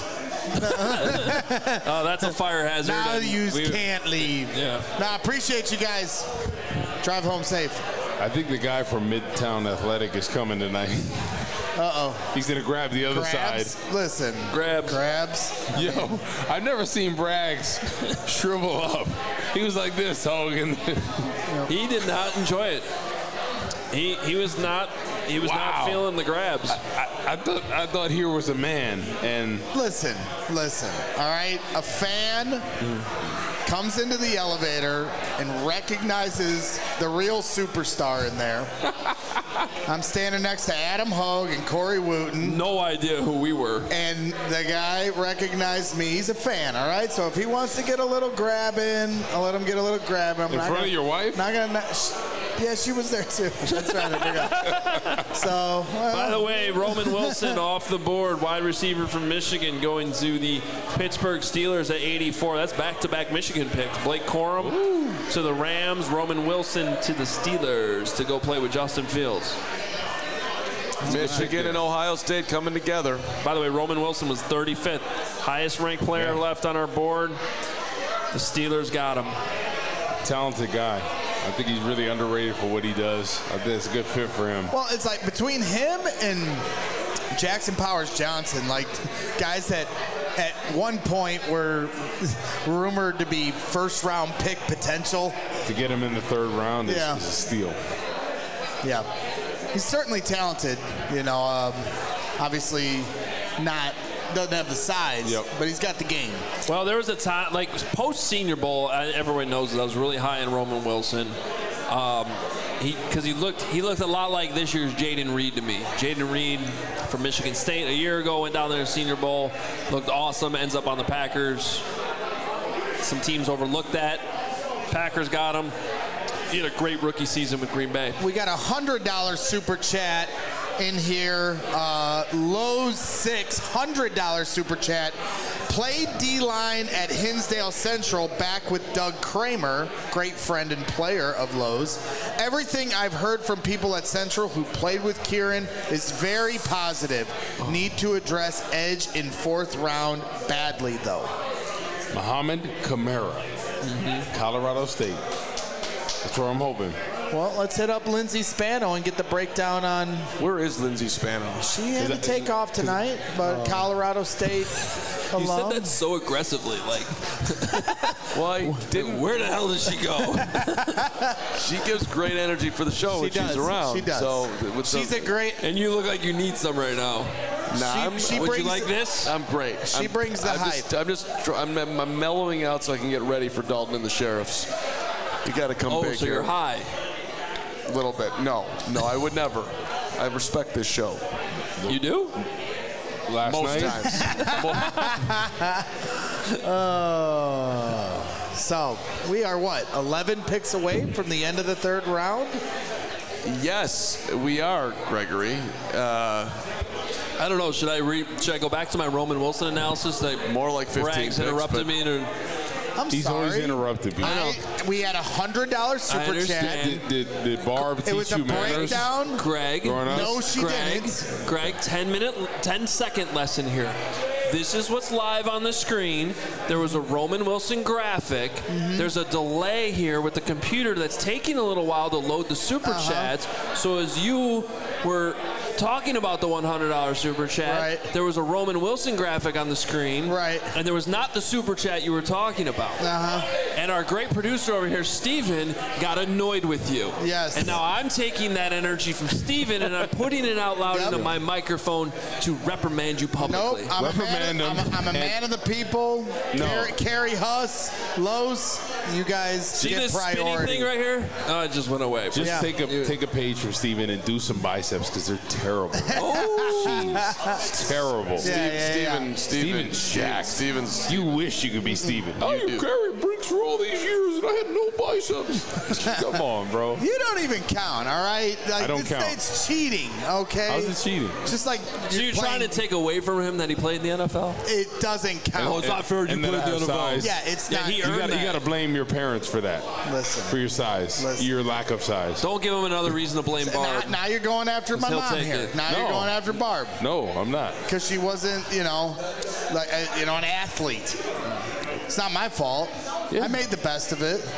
Speaker 1: Oh, that's a fire hazard.
Speaker 4: Now you can't leave.
Speaker 1: Yeah.
Speaker 4: Now, I appreciate you guys. Drive home safe.
Speaker 3: I think the guy from Midtown Athletic is coming tonight.
Speaker 4: Uh-oh.
Speaker 3: He's going to grab the other side.
Speaker 4: Listen. Grabs.
Speaker 3: Yo, I've never seen Braggs shrivel up. He was like this, Hogan.
Speaker 1: He did not enjoy it. He was not feeling the grabs.
Speaker 3: I thought here was a man, and
Speaker 4: listen. All right, a fan comes into the elevator and recognizes the real superstar in there. I'm standing next to Adam Hogue and Corey Wooten.
Speaker 1: No idea who we were.
Speaker 4: And the guy recognized me. He's a fan, all right? So if he wants to get a little grab in, I'll let him get a little grab in.
Speaker 3: In front of your wife?
Speaker 4: Yeah, she was there too. That's right. I forgot. So,
Speaker 1: by the way, Roman Wilson off the board, wide receiver from Michigan, going to the Pittsburgh Steelers at 84. That's back-to-back Michigan picks. Blake Corum to the Rams, Roman Wilson to the Steelers to go play with Justin Fields.
Speaker 2: Michigan and Ohio State coming together.
Speaker 1: By the way, Roman Wilson was 35th, highest ranked player left on our board. The Steelers got him.
Speaker 3: Talented guy. I think he's really underrated for what he does. I think it's a good fit for him.
Speaker 4: Well, it's like between him and Jackson Powers Johnson, like guys that at one point were rumored to be first-round pick potential.
Speaker 3: To get him in the third round is a steal.
Speaker 4: Yeah. He's certainly talented, obviously doesn't have the size, but he's got the game.
Speaker 1: Well, there was a time, like post-Senior Bowl, everyone knows that I was really high on Roman Wilson. Because he looked a lot like this year's Jaden Reed to me. Jaden Reed from Michigan State a year ago went down there to Senior Bowl, looked awesome, ends up on the Packers. Some teams overlooked that. Packers got him. He had a great rookie season with Green Bay.
Speaker 4: We got a $100 super chat in here. Lowe's 600 super chat. Played D-line at Hinsdale Central back with Doug Kramer, great friend and player of Lowe's. Everything I've heard from people at Central who played with Kieran is very positive. Need to address edge in 4th round badly, though.
Speaker 3: Mohamed Kamara, Colorado State. That's where I'm hoping.
Speaker 4: Well, let's hit up Lindsay Spano and get the breakdown on.
Speaker 2: Where is Lindsay Spano?
Speaker 4: She had to take off tonight, but Colorado State alum.
Speaker 1: You said that so aggressively, like.
Speaker 2: Why didn't?
Speaker 1: Where the hell does she go?
Speaker 2: She gives great energy for the show when she's around.
Speaker 4: She does.
Speaker 2: So
Speaker 4: she's a great.
Speaker 1: And you look like you need some right now.
Speaker 2: Nah,
Speaker 1: would you like this?
Speaker 2: I'm great.
Speaker 4: She brings the hype.
Speaker 2: I'm mellowing out so I can get ready for Dalton and the Sheriffs. You got to come big
Speaker 1: so
Speaker 2: here.
Speaker 1: You're high.
Speaker 2: A little bit. No, I would never. I respect this show.
Speaker 1: You do?
Speaker 2: Most times.
Speaker 4: So we are 11 picks away from the end of the 3rd round?
Speaker 2: Yes, we are, Gregory.
Speaker 1: I don't know. Should I go back to my Roman Wilson analysis?
Speaker 2: More like 15
Speaker 1: Braggs interrupted me.
Speaker 3: He's
Speaker 4: sorry.
Speaker 3: always interrupted me.
Speaker 4: We had a $100 super chat.
Speaker 3: Did Barb teach
Speaker 4: It was a
Speaker 3: you manners?
Speaker 4: breakdown.
Speaker 1: Greg.
Speaker 4: No, she didn't.
Speaker 1: Greg, 10-second lesson here. This is what's live on the screen. There was a Roman Wilson graphic. There's a delay here with the computer that's taking a little while to load the super chats. So as you were talking about the $100 super chat, there was a Roman Wilson graphic on the screen. And there was not the super chat you were talking about. And our great producer over here, Steven, got annoyed with you.
Speaker 4: Yes.
Speaker 1: And now I'm taking that energy from Steven and I'm putting it out loud into my microphone to reprimand you publicly.
Speaker 4: Nope, I'm a man of the people.
Speaker 3: No.
Speaker 4: Carrie Huss, Lowe's, you guys
Speaker 1: See
Speaker 4: get
Speaker 1: this
Speaker 4: priority.
Speaker 1: spinning thing right here? Oh, it just went away.
Speaker 3: Just take a page from Steven and do some biceps because they're terrible. Terrible.
Speaker 2: Steven's jacked. Steven's.
Speaker 3: You wish you could be Steven.
Speaker 2: You
Speaker 3: carried bricks for all these years and I had no biceps. Come on, bro.
Speaker 4: You don't even count, all right? Like,
Speaker 3: I don't count.
Speaker 4: It's cheating, okay?
Speaker 3: How's it cheating?
Speaker 4: Just like
Speaker 1: So you're trying to take away from him that he played in the NFL?
Speaker 4: It doesn't count.
Speaker 1: Oh, it's not fair. You
Speaker 3: and
Speaker 1: played in
Speaker 3: that
Speaker 1: the NFL.
Speaker 3: size.
Speaker 4: Yeah, it's not.
Speaker 1: he
Speaker 3: You
Speaker 1: earned that.
Speaker 3: got to blame your parents for that.
Speaker 4: Listen.
Speaker 3: For your size. Your lack of size.
Speaker 1: Don't give him another reason to blame Barb.
Speaker 4: Now you're going after my
Speaker 1: He'll
Speaker 4: mom
Speaker 1: take
Speaker 4: here.
Speaker 1: it.
Speaker 4: Now you're going after Barb.
Speaker 3: No, I'm not.
Speaker 4: Because she wasn't, an athlete. It's not my fault.
Speaker 3: Yeah.
Speaker 4: I made the best of it.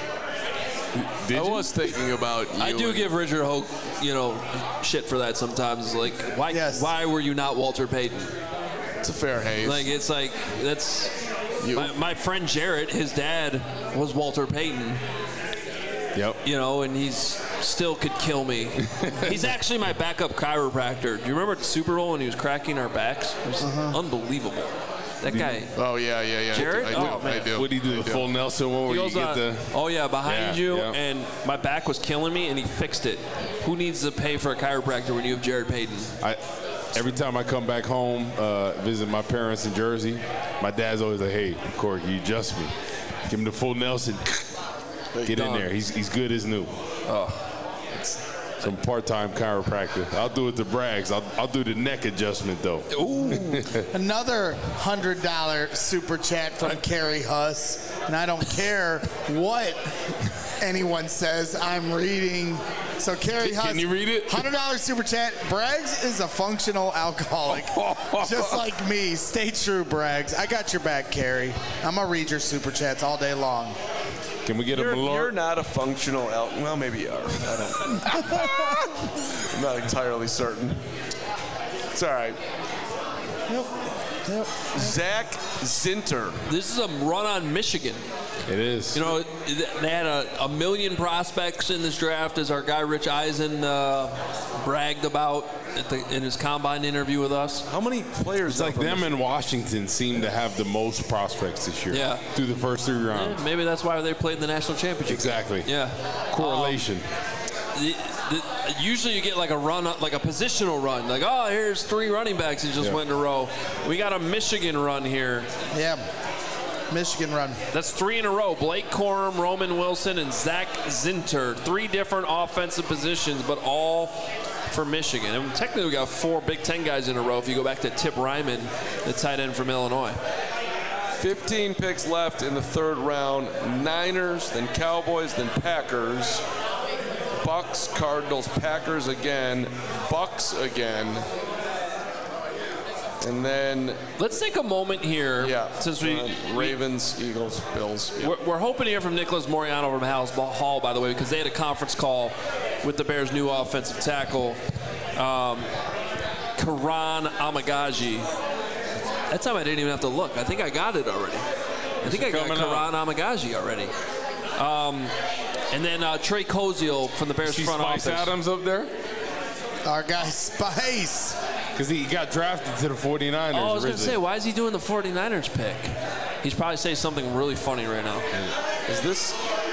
Speaker 2: I was thinking about you.
Speaker 1: I do give Richard Hoke, shit for that sometimes. Like, why were you not Walter Payton?
Speaker 2: It's a fair haze.
Speaker 1: Like, it's like, that's... My friend Jarrett, his dad was Walter Payton.
Speaker 3: Yep.
Speaker 1: And he's still could kill me. He's actually my backup chiropractor. Do you remember at the Super Bowl when he was cracking our backs? It was unbelievable. That guy.
Speaker 2: Oh, yeah.
Speaker 1: Jared?
Speaker 2: I do.
Speaker 3: What did he do? The full Nelson one where you get the...
Speaker 1: behind you, and my back was killing me, and he fixed it. Who needs to pay for a chiropractor when you have Jared Payton?
Speaker 3: Every time I come back home, visit my parents in Jersey, my dad's always like, hey, Corey, can you adjust me? Give him the full Nelson. Get in there. He's good as new. Some part-time chiropractor. I'll do it to Braggs. I'll do the neck adjustment, though.
Speaker 4: Ooh. Another $100 super chat from Carrie Huss. And I don't care what anyone says. I'm reading. So Carrie Huss.
Speaker 3: Can you read it?
Speaker 4: $100 super chat. Braggs is a functional alcoholic. Just like me. Stay true, Braggs. I got your back, Carrie. I'm going to read your super chats all day long.
Speaker 3: Can we get a Malort?
Speaker 2: You're not a functional well, maybe you are. I'm not entirely certain. It's all right.
Speaker 4: Yep.
Speaker 2: Zach Zinter.
Speaker 1: This is a run on Michigan.
Speaker 3: It is.
Speaker 1: They had a million prospects in this draft, as our guy Rich Eisen bragged about in his combine interview with us.
Speaker 2: How many players?
Speaker 3: It's like them in Washington seem to have the most prospects this year.
Speaker 1: Yeah.
Speaker 3: Through the first 3 rounds.
Speaker 1: Yeah, maybe that's why they played in the national championship.
Speaker 3: Exactly.
Speaker 1: Yeah.
Speaker 3: Correlation.
Speaker 1: Usually you get like a run, like a positional run. Like, here's 3 running backs that just went in a row. We got a Michigan run here.
Speaker 4: Yeah. Michigan run.
Speaker 1: That's 3 in a row. Blake Corum, Roman Wilson, and Zach Zinter. 3 different offensive positions, but all for Michigan. And technically we got 4 Big Ten guys in a row if you go back to Tip Ryman, the tight end from Illinois.
Speaker 2: 15 picks left in the 3rd round. Niners, then Cowboys, then Packers. Bucks, Cardinals, Packers again, Bucks again. And then
Speaker 1: let's take a moment here.
Speaker 2: Yeah.
Speaker 1: Since we
Speaker 2: Ravens, Eagles, Bills. Yeah.
Speaker 1: We're hoping to hear from Nicholas Moriano from House Hall, by the way, because they had a conference call with the Bears' new offensive tackle, Karan Amagaji. That time I didn't even have to look. I think I got it already. I think I got Karan Amagaji already. And then Trey Koziel from the Bears front office.
Speaker 3: Spice Adams up there?
Speaker 4: Our guy Spice.
Speaker 3: Because he got drafted to the 49ers.
Speaker 1: Oh, I was going to say, why is he doing the 49ers pick? He's probably saying something really funny right now.
Speaker 2: Is this...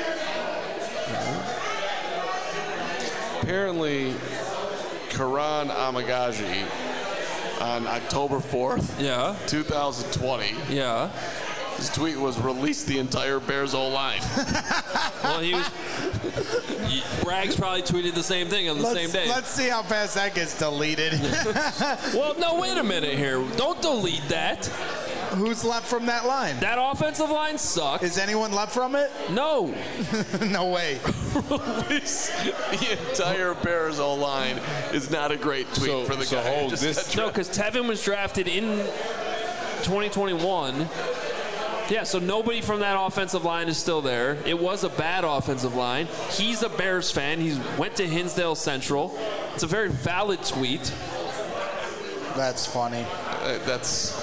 Speaker 2: Apparently, Karan Amagaji on October 4th, 2020.
Speaker 1: Yeah.
Speaker 2: His tweet was, release the entire Bears O-line.
Speaker 1: Well, he was... Braggs probably tweeted the same thing on the same day.
Speaker 4: Let's see how fast that gets deleted.
Speaker 1: Well, no, wait a minute here. Don't delete that.
Speaker 4: Who's left from that line?
Speaker 1: That offensive line sucks.
Speaker 4: Is anyone left from it?
Speaker 1: No.
Speaker 4: No way.
Speaker 2: Release the entire Bears O-line is not a great tweet for the guy.
Speaker 1: No, because Tevin was drafted in 2021. Yeah, so nobody from that offensive line is still there. It was a bad offensive line. He's a Bears fan. He went to Hinsdale Central. It's a very valid tweet.
Speaker 4: That's funny.
Speaker 2: That's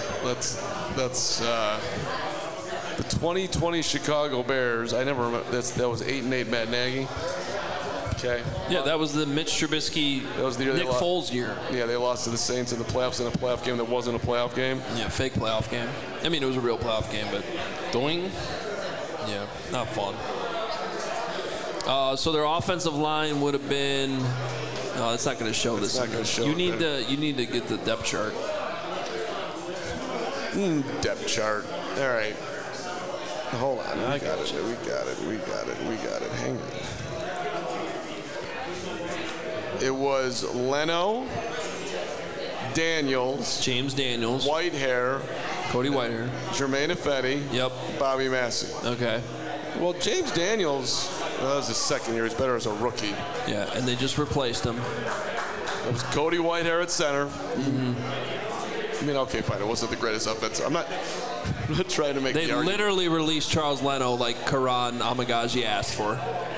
Speaker 2: the 2020 Chicago Bears. I never remember. That was 8-8 Matt Nagy. Okay.
Speaker 1: Yeah, that was the Mitch Trubisky,
Speaker 2: that was the year
Speaker 1: Nick Foles year.
Speaker 2: Yeah, they lost to the Saints in the playoffs in a playoff game that wasn't a playoff game.
Speaker 1: Yeah, fake playoff game. I mean, it was a real playoff game, but doing, yeah, not fun. So their offensive line would have been. No, it's not going to show this.
Speaker 2: Not going to show.
Speaker 1: You need to get the depth chart.
Speaker 2: Depth chart. All right. Hold on. We got it. Hang on. It was Leno, Daniels,
Speaker 1: James Daniels,
Speaker 2: Whitehair,
Speaker 1: Cody Whitehair,
Speaker 2: Jermaine Ifedi, Bobby Massey.
Speaker 1: Okay.
Speaker 2: Well, James Daniels, that was his 2nd year. He's better as a rookie.
Speaker 1: Yeah, and they just replaced him.
Speaker 2: It was Cody Whitehair at center. Mm-hmm. I mean, okay, fine. It wasn't the greatest offense. I'm not trying to make the argument.
Speaker 1: They literally released Charles Leno like Karan Amagaji asked for.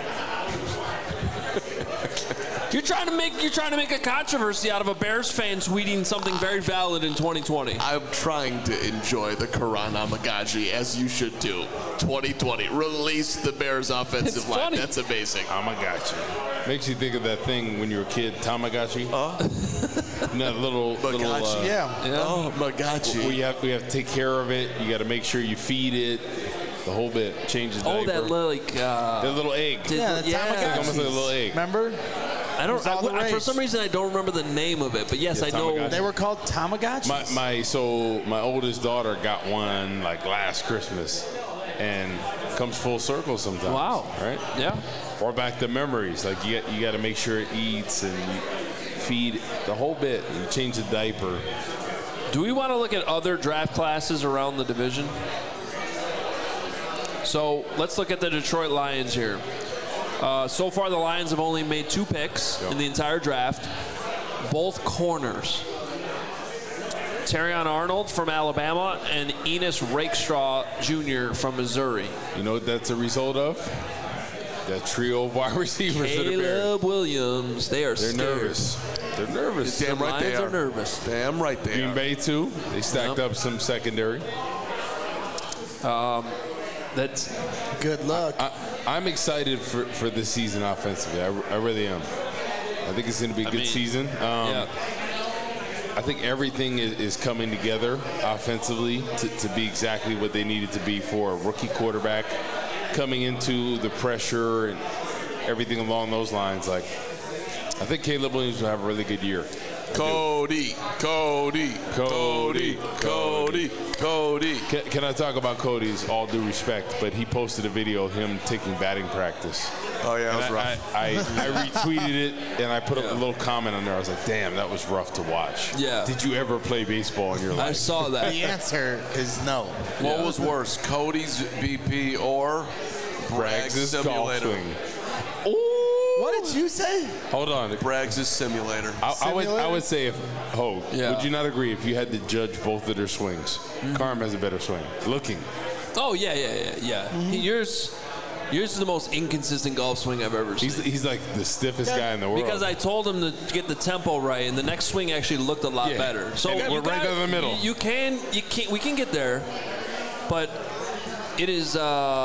Speaker 1: You're trying to make a controversy out of a Bears fan tweeting something very valid in 2020.
Speaker 2: I'm trying to enjoy the Karan Amagaji, as you should do. 2020, release the Bears offensive line.
Speaker 1: Funny.
Speaker 2: That's amazing.
Speaker 3: Tamagotchi. Makes you think of that thing when you were a kid, Tamagotchi. That little
Speaker 2: Magotchi. Oh, Magotchi.
Speaker 3: We have to take care of it. You got to make sure you feed it. The whole bit. Change the diaper.
Speaker 1: Oh, that
Speaker 3: little egg.
Speaker 4: Tamagotchi.
Speaker 3: Almost like a little egg.
Speaker 4: Remember?
Speaker 1: For some reason, I don't remember the name of it, but yes, I know.
Speaker 3: Tamagotchi.
Speaker 4: They were called Tamagotchis?
Speaker 3: My oldest daughter got one like last Christmas, and comes full circle sometimes.
Speaker 1: Wow.
Speaker 3: Right?
Speaker 1: Yeah.
Speaker 3: Or back to memories. Like you got to make sure it eats and you feed the whole bit. You change the diaper.
Speaker 1: Do we want to look at other draft classes around the division? So let's look at the Detroit Lions here. So far, the Lions have only made 2 picks in the entire draft, both corners. Terrion Arnold from Alabama and Enos Rakestraw Jr. from Missouri.
Speaker 3: You know what that's a result of? That trio of wide receivers.
Speaker 1: Caleb Williams. They're scared.
Speaker 3: Nervous. They're nervous.
Speaker 2: Damn right they
Speaker 1: are nervous.
Speaker 2: Damn right they are.
Speaker 3: Green Bay, too. They stacked up some secondary.
Speaker 1: That's
Speaker 4: good luck.
Speaker 3: I'm excited for this season offensively. I really am. I think it's going to be a good season. I think everything is coming together offensively to be exactly what they needed to be for a rookie quarterback coming into the pressure and everything along those lines. Like, I think Caleb Williams will have a really good year.
Speaker 2: Cody.
Speaker 3: Can I talk about Cody's all due respect? But he posted a video of him taking batting practice.
Speaker 2: Oh, yeah, that was rough.
Speaker 3: I retweeted it, and I put up a little comment on there. I was like, damn, that was rough to watch.
Speaker 1: Yeah.
Speaker 3: Did you ever play baseball in your life?
Speaker 1: I saw that.
Speaker 4: The answer is no.
Speaker 2: What was worse, Cody's BP or Bragg's simulator?
Speaker 4: What did you say?
Speaker 3: Hold on.
Speaker 2: Bragg's simulator.
Speaker 3: I would say if Hogue,
Speaker 1: Yeah.
Speaker 3: would you not agree if you had to judge both of their swings? Carm has a better swing. Looking.
Speaker 1: Oh, yeah. Yours is the most inconsistent golf swing I've ever seen.
Speaker 3: He's like the stiffest guy in the world.
Speaker 1: Because I told him to get the tempo right, and the next swing actually looked a lot better. So
Speaker 3: And we're right down the middle.
Speaker 1: We can get there, but it is.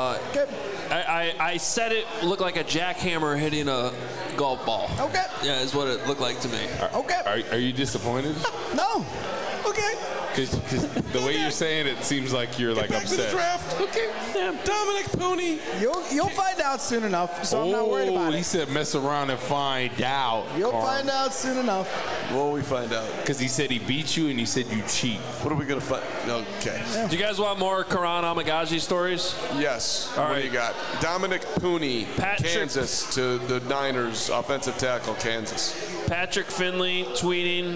Speaker 1: I said it looked like a jackhammer hitting a golf ball.
Speaker 4: Okay.
Speaker 1: Yeah, is what it looked like to me.
Speaker 4: Okay.
Speaker 3: Are you disappointed?
Speaker 4: No. Okay.
Speaker 3: Because the way you're saying it seems like you're like
Speaker 2: Back to the
Speaker 3: upset.
Speaker 2: draft. Okay. Dominic Pooney.
Speaker 4: You'll find out soon enough, so I'm not worried about
Speaker 3: He
Speaker 4: it.
Speaker 3: said mess around and find out.
Speaker 4: You'll find out soon enough.
Speaker 2: What will we find out?
Speaker 3: Because he said he beat you and he said you cheat.
Speaker 2: What are we going to find? Okay.
Speaker 1: Do you guys want more Karan Amagaji stories?
Speaker 2: Yes.
Speaker 1: All
Speaker 2: What
Speaker 1: right.
Speaker 2: do you got? Dominic Pooney,
Speaker 1: Patrick-
Speaker 2: Kansas, to the Niners, offensive tackle, Kansas.
Speaker 1: Patrick Finley tweeting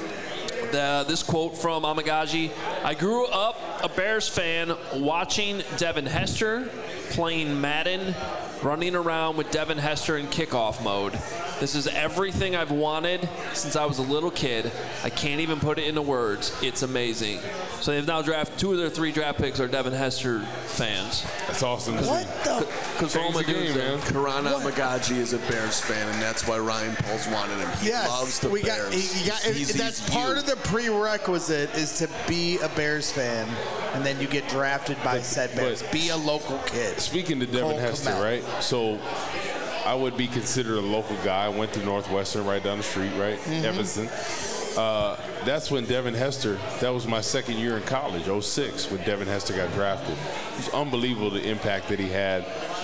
Speaker 1: this quote from Amagaji. I grew up a Bears fan watching Devin Hester playing Madden, running around with Devin Hester in kickoff mode. This is everything I've wanted since I was a little kid. I can't even put it into words. It's amazing. So they've now drafted 2 of their 3 draft picks are Devin Hester fans.
Speaker 3: That's awesome.
Speaker 4: What the?
Speaker 1: Because
Speaker 3: Change the game, man.
Speaker 2: Karan Amagaji is a Bears fan, and that's why Ryan Poles wanted him. He loves the Bears.
Speaker 4: That's part of the prerequisite is to be a Bears fan, and then you get drafted by said Bears. Be a local kid.
Speaker 3: Speaking to Devin
Speaker 4: Cole
Speaker 3: Hester,
Speaker 4: Kmet.
Speaker 3: right? So I would be considered a local guy. I went to Northwestern right down the street, right? Evanston. That's when Devin Hester, that was my second year in college, 06, when Devin Hester got drafted. It was unbelievable the impact that he had.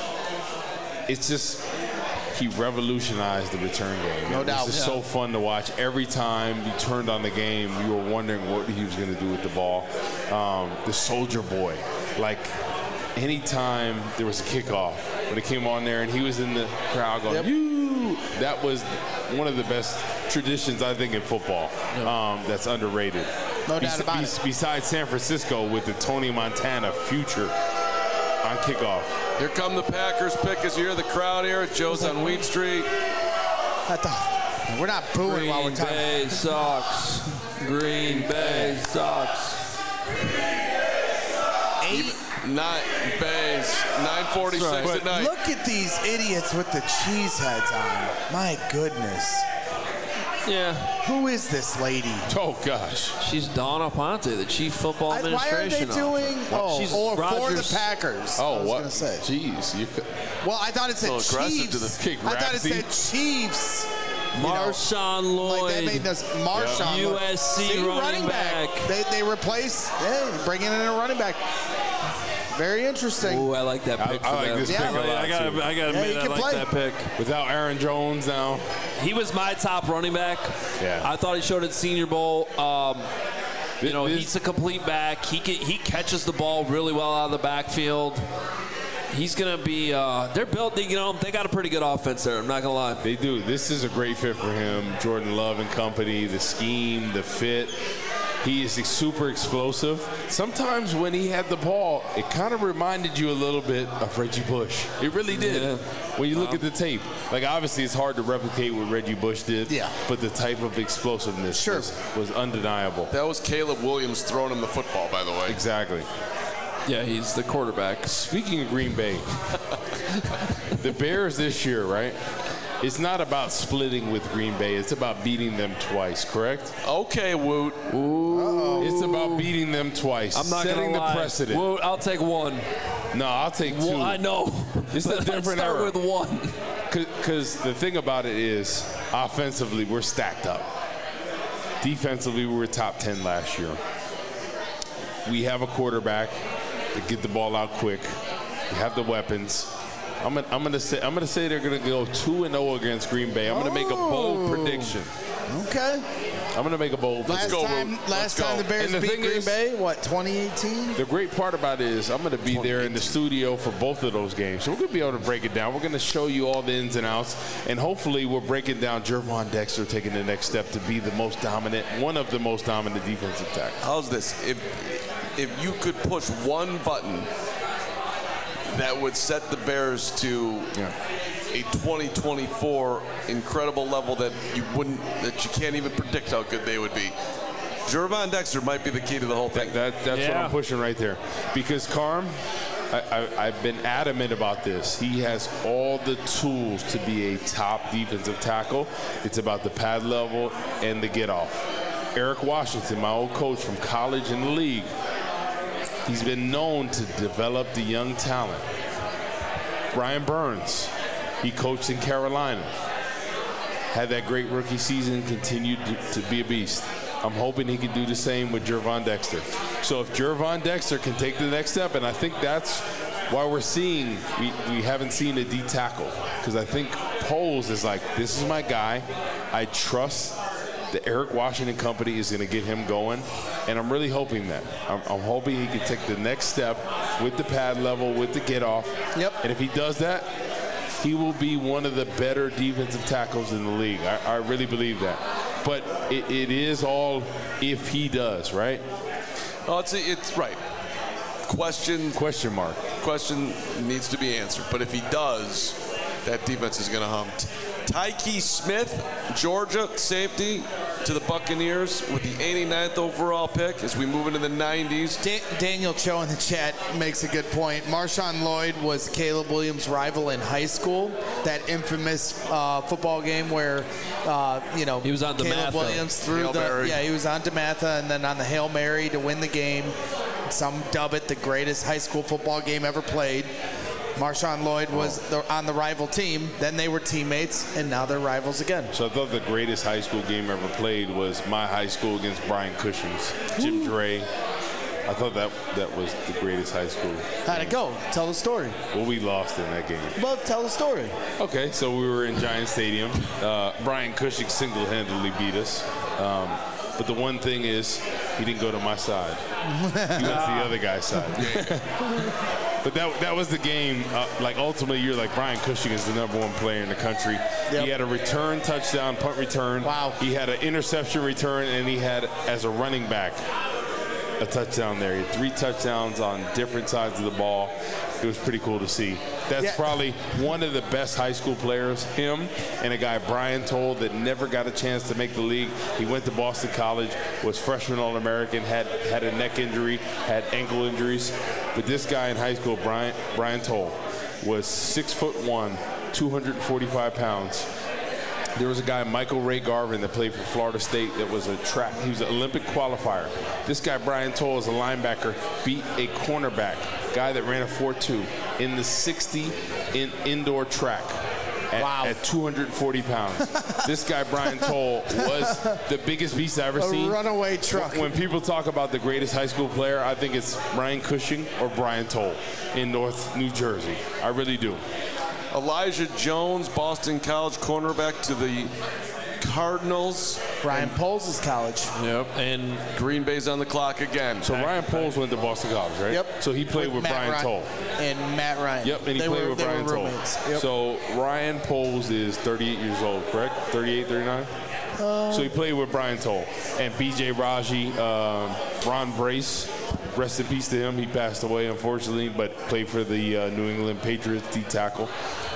Speaker 3: It's just, he revolutionized the return game.
Speaker 4: No doubt.
Speaker 3: It was just so fun to watch. Every time you turned on the game, you were wondering what he was going to do with the ball. The Soldier Boy, like anytime there was a kickoff, when it came on there and he was in the crowd going, "You," that was one of the best traditions, I think, in football. That's underrated.
Speaker 4: No doubt about it.
Speaker 3: Besides San Francisco with the Tony Montana future on kickoff.
Speaker 2: Here come the Packers pick as you hear the crowd here at Joe's on Wheat Street.
Speaker 4: We're not booing while we're
Speaker 1: Green
Speaker 4: talking.
Speaker 1: Bay sucks. Green Bay sucks.
Speaker 2: 9:46 at night.
Speaker 4: Look at these idiots with the cheese heads on. My goodness.
Speaker 1: Yeah,
Speaker 4: Who is this lady?
Speaker 3: Oh, gosh.
Speaker 1: she's Donna Ponte, the chief football
Speaker 4: Why are they
Speaker 1: administration.
Speaker 4: doing?
Speaker 1: She's
Speaker 4: For the
Speaker 1: Rodgers.
Speaker 4: Packers. I
Speaker 3: Oh,
Speaker 4: was
Speaker 3: what?
Speaker 4: gonna say.
Speaker 3: Jeez.
Speaker 4: Well, I thought it said
Speaker 2: A little aggressive to
Speaker 4: Chiefs.
Speaker 2: the
Speaker 3: kick,
Speaker 4: I thought it
Speaker 3: Rapsy.
Speaker 4: said Chiefs.
Speaker 1: Marshawn
Speaker 4: Like
Speaker 1: Lloyd.
Speaker 4: that made us Marshawn. look-
Speaker 1: USC
Speaker 4: See,
Speaker 1: running back.
Speaker 4: They replace. Yeah, bringing in a running back. Very interesting.
Speaker 1: Ooh, I like that pick.
Speaker 3: I
Speaker 1: for
Speaker 3: like
Speaker 1: them.
Speaker 3: this pick a lot,
Speaker 1: I gotta
Speaker 3: too.
Speaker 1: admit,
Speaker 4: he
Speaker 1: I
Speaker 4: can
Speaker 1: like
Speaker 4: play.
Speaker 1: that pick.
Speaker 3: Without Aaron Jones now.
Speaker 1: He was my top running back.
Speaker 3: Yeah.
Speaker 1: I thought he showed at Senior Bowl.
Speaker 3: This-
Speaker 1: He's a complete back. He catches the ball really well out of the backfield. He's gonna be. They're built. They got a pretty good offense there. I'm not gonna lie.
Speaker 3: They do. This is a great fit for him. Jordan Love and company, the scheme, the fit. He is super explosive. Sometimes when he had the ball, it kind of reminded you a little bit of Reggie Bush. It really did.
Speaker 1: Yeah.
Speaker 3: When you look at the tape. Like, obviously, it's hard to replicate what Reggie Bush did.
Speaker 4: Yeah.
Speaker 3: But the type of explosiveness
Speaker 4: Sure.
Speaker 3: was undeniable.
Speaker 2: That was Caleb Williams throwing him the football, by the way.
Speaker 3: Exactly.
Speaker 1: Yeah, he's the quarterback.
Speaker 3: Speaking of Green Bay, the Bears this year, right? It's not about splitting with Green Bay. It's about beating them twice, correct?
Speaker 2: Okay, Woot.
Speaker 3: It's about beating them twice.
Speaker 1: I'm not
Speaker 3: setting
Speaker 1: gonna lie.
Speaker 3: the precedent.
Speaker 1: Well, I'll take one.
Speaker 3: No, I'll take two.
Speaker 1: Well, I know.
Speaker 3: It's a
Speaker 1: But
Speaker 3: different
Speaker 1: let's start
Speaker 3: era.
Speaker 1: with one.
Speaker 3: Because the thing about it is, offensively, we're stacked up. Defensively, we were top 10 last year. We have a quarterback that get the ball out quick. We have the weapons. I'm gonna say they're gonna go 2-0 against Green Bay. I'm gonna make a bold prediction.
Speaker 4: Okay.
Speaker 3: I'm going to make a bold
Speaker 4: Last time the Bears beat Green Bay, what, 2018?
Speaker 3: The great part about it is I'm going to be there in the studio for both of those games. So we're going to be able to break it down. We're going to show you all the ins and outs. And hopefully we're breaking down Gervon Dexter taking the next step to be the most dominant, one of the most dominant defensive tackles.
Speaker 2: How's this? If you could push one button that would set the Bears to a 2024 incredible level that you can't even predict how good they would be. Gervon Dexter might be the key to the whole thing.
Speaker 3: That's what I'm pushing right there. Because Carm, I've been adamant about this. He has all the tools to be a top defensive tackle. It's about the pad level and the get off. Eric Washington, my old coach from college and the league, he's been known to develop the young talent. Brian Burns, he coached in Carolina. Had that great rookie season, continued to be a beast. I'm hoping he can do the same with Gervon Dexter. So if Gervon Dexter can take the next step, and I think that's why we're seeing, we haven't seen a D tackle. Because I think Poles is like, this is my guy. I trust the Eric Washington company is going to get him going. And I'm really hoping that. I'm hoping he can take the next step with the pad level, with the get off.
Speaker 4: Yep.
Speaker 3: And if he does that, he will be one of the better defensive tackles in the league. I really believe that. But it is all if he does, right?
Speaker 2: Oh, it's right. Question mark. Question needs to be answered. But if he does, that defense is going to hum. Tyke Smith, Georgia safety, to the Buccaneers with the 89th overall pick as we move into the 90s.
Speaker 4: Daniel Cho in the chat makes a good point. Marshawn Lloyd was Caleb Williams' rival in high school. That infamous football game where,
Speaker 1: he was on
Speaker 4: Caleb Williams threw he was on DeMatha and then on the Hail Mary to win the game. Some dub it the greatest high school football game ever played. Marshawn Lloyd was on the rival team. Then they were teammates, and now they're rivals again.
Speaker 3: So I thought the greatest high school game ever played was my high school against Brian Cushing's. Jim Dre. I thought that was the greatest high school.
Speaker 4: How'd it go? Tell the story.
Speaker 3: Well, we lost in that game.
Speaker 4: Well, tell the story.
Speaker 3: Okay, so we were in Giant Stadium. Brian Cushing single-handedly beat us. But the one thing is, he didn't go to my side. He went to the other guy's side. But that was the game. Ultimately, you're like, Brian Cushing is the #1 player in the country. Yep. He had a return touchdown, punt return.
Speaker 4: Wow.
Speaker 3: He had an interception return, and he had, as a running back, a touchdown there. He had 3 touchdowns on different sides of the ball. It was pretty cool to see. That's probably one of the best high school players, him and a guy, Brian Toll, that never got a chance to make the league. He went to Boston College, was freshman All-American, had a neck injury, had ankle injuries. But this guy in high school, Brian Toll, was 6'1", 245 pounds. There was a guy, Michael Ray Garvin, that played for Florida State that was he was an Olympic qualifier. This guy, Brian Toll, as a linebacker, beat a cornerback, guy that ran a 4.2 in the 60 in indoor track at 240 pounds. This guy, Brian Toll, was the biggest beast I ever seen.
Speaker 4: A runaway truck.
Speaker 3: When people talk about the greatest high school player, I think it's Brian Cushing or Brian Toll in North New Jersey. I really do.
Speaker 2: Elijah Jones, Boston College cornerback to the Cardinals.
Speaker 4: Ryan Poles' college.
Speaker 2: Yep. And Green Bay's on the clock again.
Speaker 3: So Ryan Poles went to Boston College, right?
Speaker 4: Yep.
Speaker 3: So he played with Brian Toll.
Speaker 4: And Matt Ryan.
Speaker 3: Yep, and he played with Brian Toll.
Speaker 4: Yep.
Speaker 3: So Ryan Poles is 38 years old, correct? 38, 39? So he played with Brian Toll. And B.J. Raji, Ron Brace, rest in peace to him. He passed away, unfortunately, but played for the New England Patriots, D-tackle.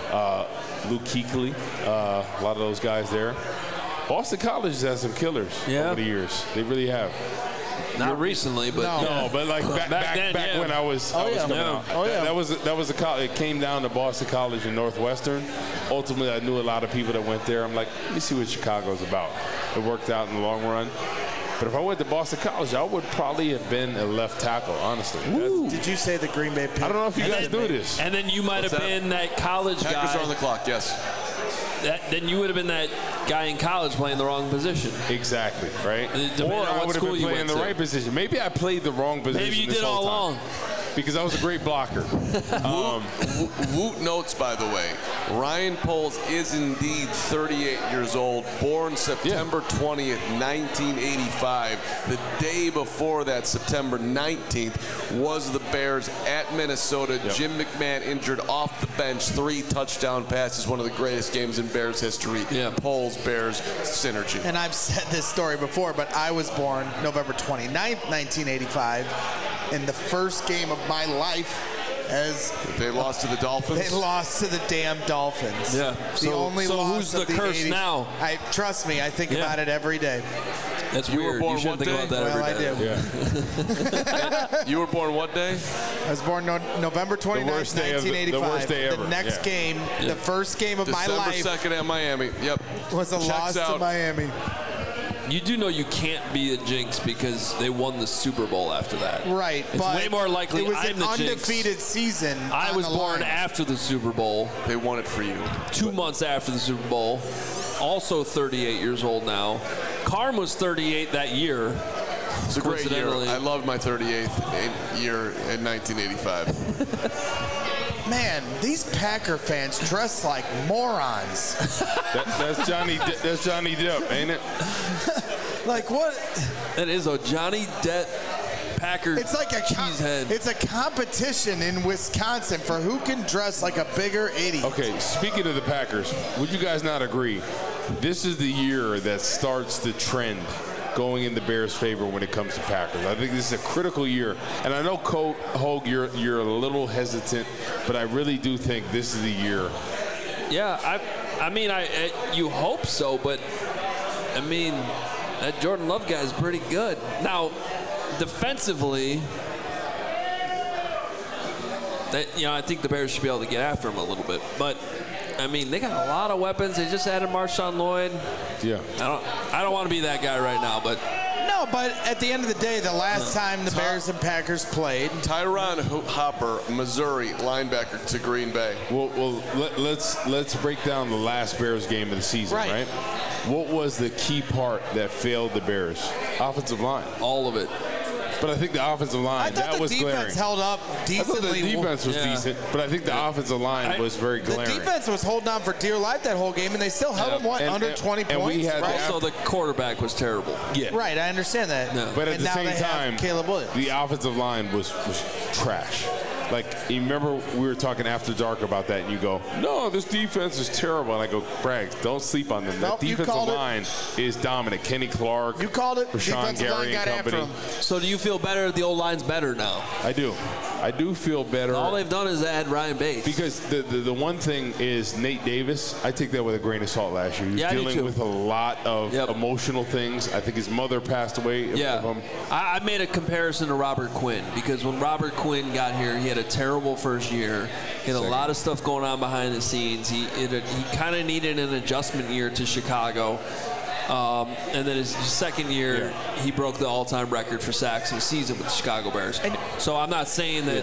Speaker 3: Luke Kuechly, a lot of those guys there. Boston College has had some killers over the years. They really have.
Speaker 1: Not recently, but
Speaker 3: but like back when I was coming out. That was a college. It came down to Boston College and Northwestern. Ultimately, I knew a lot of people that went there. I'm like, let me see what Chicago's about. It worked out in the long run. But if I went to Boston College, I would probably have been a left tackle, honestly.
Speaker 4: Did you say the Green Bay Packers?
Speaker 3: I don't know if you guys do this.
Speaker 1: And then you might have been that college guy.
Speaker 2: Packers are on the clock, yes.
Speaker 1: Then you would have been that guy in college playing the wrong position.
Speaker 3: Exactly, right?
Speaker 1: Or
Speaker 3: I would have been playing the right position. Maybe I played the wrong position.
Speaker 1: Maybe you did all along.
Speaker 3: because I was a great blocker.
Speaker 2: Woot notes, by the way, Ryan Poles is indeed 38 years old, born September 20th, 1985. The day before that, September 19th, was the Bears at Minnesota.
Speaker 3: Yep.
Speaker 2: Jim McMahon injured off the bench, 3 touchdown passes, one of the greatest games in Bears history.
Speaker 1: Yeah.
Speaker 2: Poles, Bears, synergy.
Speaker 4: And I've said this story before, but I was born November 29th, 1985, in the first game of my life as
Speaker 2: They lost to the Dolphins?
Speaker 4: they lost to the damn Dolphins.
Speaker 1: Yeah.
Speaker 4: The
Speaker 1: So-
Speaker 4: only
Speaker 1: so
Speaker 4: loss
Speaker 1: who's
Speaker 4: of
Speaker 1: the curse
Speaker 4: 80s.
Speaker 1: now?
Speaker 4: Trust me, I think
Speaker 1: Yeah.
Speaker 4: about it every day.
Speaker 1: That's
Speaker 2: You were
Speaker 1: weird.
Speaker 2: born
Speaker 1: You shouldn't
Speaker 2: what
Speaker 1: think about
Speaker 2: day?
Speaker 1: that
Speaker 4: Well, I
Speaker 1: every day.
Speaker 4: do.
Speaker 2: You were born what day?
Speaker 4: I was born November 29th,
Speaker 3: worst day of the
Speaker 4: 1985.
Speaker 3: worst day ever.
Speaker 4: The next
Speaker 3: Yeah.
Speaker 4: game, the first game of my
Speaker 2: December
Speaker 4: life,
Speaker 2: 2nd at Miami. Yep.
Speaker 4: was a
Speaker 2: Checks
Speaker 4: loss to
Speaker 2: out.
Speaker 4: Miami.
Speaker 1: You do know you can't be a jinx because they won the Super Bowl after that.
Speaker 4: Right,
Speaker 1: It's
Speaker 4: but
Speaker 1: way more likely
Speaker 4: it was
Speaker 1: I'm
Speaker 4: an
Speaker 1: the jinx.
Speaker 4: undefeated season.
Speaker 1: I
Speaker 4: on
Speaker 1: was
Speaker 4: the
Speaker 1: born
Speaker 4: line.
Speaker 1: after the Super Bowl,
Speaker 2: They won it for you.
Speaker 1: 2 months after the Super Bowl. Also 38 years old now. Carm was 38 that year.
Speaker 2: It's a great year.
Speaker 1: Coincidentally.
Speaker 2: I loved my 38th year in 1985.
Speaker 4: Man, these Packer fans dress like morons.
Speaker 3: That's Johnny Depp, ain't it?
Speaker 4: Like what?
Speaker 1: That is a Johnny Depp Packer
Speaker 4: It's like
Speaker 1: cheesehead.
Speaker 4: it's a competition in Wisconsin for who can dress like a bigger idiot.
Speaker 3: Okay, speaking of the Packers, would you guys not agree? This is the year that starts the trend going in the Bears' favor when it comes to Packers. I think this is a critical year. And I know, Hogue, you're a little hesitant, but I really do think this is the year.
Speaker 1: Yeah, I mean, you hope so, but I mean, that Jordan Love guy is pretty good. Now, defensively, I think the Bears should be able to get after him a little bit. But I mean, they got a lot of weapons. They just added Marshawn Lloyd.
Speaker 3: Yeah.
Speaker 1: I don't want to be that guy right now, but
Speaker 4: No, but at the end of the day, the last time the Bears and Packers played,
Speaker 2: Tyron Hopper, Missouri, linebacker to Green Bay.
Speaker 3: Well, let's break down the last Bears game of the season, right? What was the key part that failed the Bears? Offensive line.
Speaker 1: all of it.
Speaker 3: But I think the offensive
Speaker 4: I
Speaker 3: line,
Speaker 4: thought
Speaker 3: that
Speaker 4: the
Speaker 3: was
Speaker 4: defense
Speaker 3: glaring.
Speaker 4: held up
Speaker 3: I thought
Speaker 4: decently.
Speaker 3: the defense was
Speaker 1: Yeah.
Speaker 3: decent, but I think the offensive line was very
Speaker 4: The
Speaker 3: glaring.
Speaker 4: defense was holding on for dear life that whole game, and they still held them,
Speaker 3: And-
Speaker 4: under 20
Speaker 3: and we
Speaker 4: points?
Speaker 3: had
Speaker 4: right?
Speaker 3: the
Speaker 1: Also, the quarterback was terrible.
Speaker 3: Yeah.
Speaker 4: Right, I understand that.
Speaker 1: No.
Speaker 3: But at
Speaker 4: And
Speaker 3: the
Speaker 4: now
Speaker 3: same
Speaker 4: they have
Speaker 3: time,
Speaker 4: Caleb Williams.
Speaker 3: the offensive line was trash. Like, you remember we were talking after dark about that, and you go, no, this defense is terrible. And I go, Bragg, don't sleep on them.
Speaker 4: Nope,
Speaker 3: The
Speaker 4: you
Speaker 3: defensive
Speaker 4: called it.
Speaker 3: line is dominant. Kenny Clark.
Speaker 4: You called it.
Speaker 3: Rashawn
Speaker 4: Defensive line
Speaker 3: Gary
Speaker 4: got
Speaker 3: and
Speaker 4: after
Speaker 3: company.
Speaker 4: him.
Speaker 1: So do you feel better? The old line's better now.
Speaker 3: I do. I do feel better.
Speaker 1: All they've done is add Ryan Bates.
Speaker 3: Because the one thing is Nate Davis, I take that with a grain of salt last year. He was
Speaker 1: Yeah, I do
Speaker 3: dealing
Speaker 1: too.
Speaker 3: with a lot of
Speaker 1: Yep.
Speaker 3: emotional things. I think his mother passed away.
Speaker 1: Yeah,
Speaker 3: of him.
Speaker 1: I made a comparison to Robert Quinn because when Robert Quinn got here, he had a terrible first year. He had a lot of stuff going on behind the scenes. He kind of needed an adjustment year to Chicago. And then his second year, he broke the all-time record for sacks in a season with the Chicago Bears. So I'm not saying that,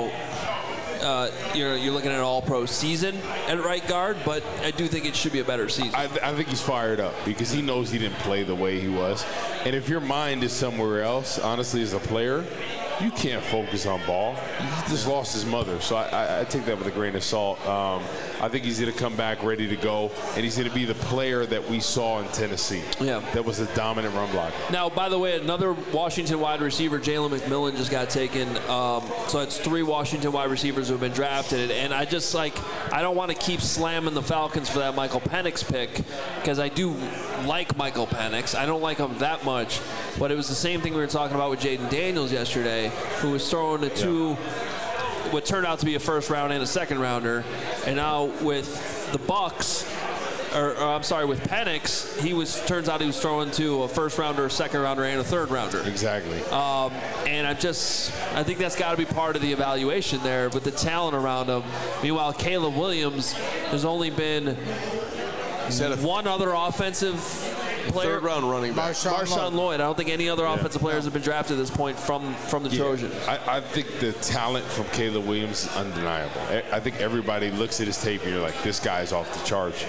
Speaker 1: you're looking at an all-pro season at right guard, but I do think it should be a better season.
Speaker 3: I think he's fired up because he knows he didn't play the way he was. And if your mind is somewhere else, honestly, as a player, you can't focus on ball. He just lost his mother. So I take that with a grain of salt. I think he's going to come back ready to go, and he's going to be the player that we saw in Tennessee.
Speaker 1: Yeah.
Speaker 3: That was a dominant run blocker.
Speaker 1: Now, by the way, another Washington wide receiver, Jalen McMillan, just got taken. So it's 3 Washington wide receivers who have been drafted. And I just, I don't want to keep slamming the Falcons for that Michael Penix pick because I do like Michael Penix. I don't like him that much. But it was the same thing we were talking about with Jaden Daniels yesterday, who was throwing to 2 what turned out to be a first round and a second rounder. And now with the Bucks, with Penix, turns out he was throwing to a first rounder, a second rounder, and a third rounder.
Speaker 3: Exactly.
Speaker 1: And I think that's got to be part of the evaluation there with the talent around him. Meanwhile, Caleb Williams, there's only been one other offensive player.
Speaker 2: Third-round running back.
Speaker 1: Marshawn Lloyd. I don't think any other offensive players have been drafted at this point from the Trojans.
Speaker 3: I think the talent from Caleb Williams is undeniable. I think everybody looks at his tape and you're like, this guy's off the charts.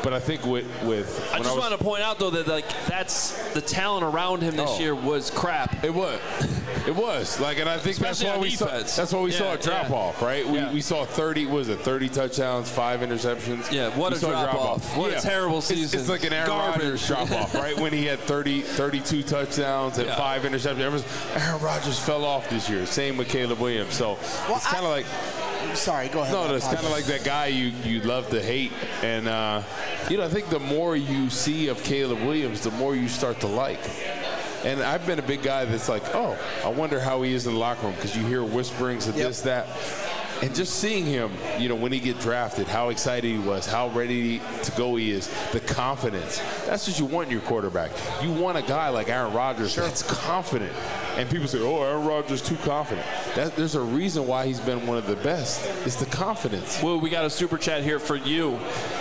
Speaker 3: But I think with
Speaker 1: I just want to point out though that that's the talent around him this year was crap.
Speaker 3: It was. It was. Like, and I think
Speaker 1: Especially
Speaker 3: that's why we saw a drop off, right? We saw 30 touchdowns, 5 interceptions.
Speaker 1: Yeah, what a drop off. What a terrible season.
Speaker 3: It's like an Aaron Rodgers drop off, right? When he had 32 touchdowns and 5 interceptions. Aaron Rodgers fell off this year. Same with Caleb Williams. So it's kind of like.
Speaker 4: Sorry, go ahead.
Speaker 3: No, it's kind of like that guy you love to hate. And, I think the more you see of Caleb Williams, the more you start to like. And I've been a big guy that's like, oh, I wonder how he is in the locker room, because you hear whisperings of this, that. And just seeing him, when he get drafted, how excited he was, how ready to go he is, the confidence. That's what you want in your quarterback. You want a guy like Aaron Rodgers that's confident. And people say, oh, Aaron Rodgers is too confident. There's a reason why he's been one of the best. It's the confidence.
Speaker 1: Well, we got a super chat here for you.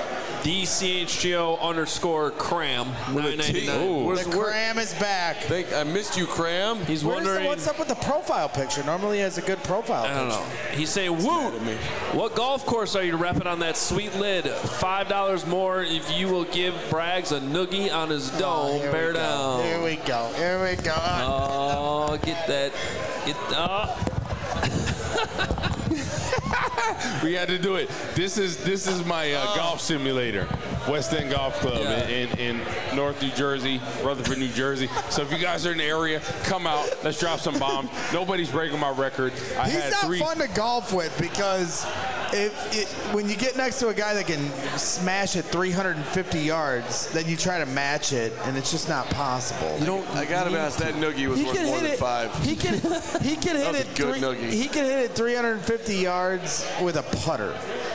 Speaker 1: DCHGO_Cram 999.
Speaker 4: The Cram is back.
Speaker 2: I missed you, Cram.
Speaker 1: He's wondering
Speaker 4: what's up with the profile picture. Normally he has a good profile picture.
Speaker 1: I don't know. He's saying, "Woo! What golf course are you repping on that sweet lid? $5 more if you will give Braggs a noogie on his dome. Bear down."
Speaker 4: Here we go.
Speaker 1: Oh, get that.
Speaker 3: We had to do it. This is my golf simulator, West End Golf Club in North New Jersey, Rutherford, New Jersey. So if you guys are in the area, come out. Let's drop some bombs. Nobody's breaking my record.
Speaker 4: He's not fun to golf with, because when you get next to a guy that can smash it 350 yards, then you try to match it, and it's just not possible.
Speaker 2: I gotta be honest, that noogie was worth more than 5.
Speaker 4: He can hit it. He can hit it 350 yards with a putter.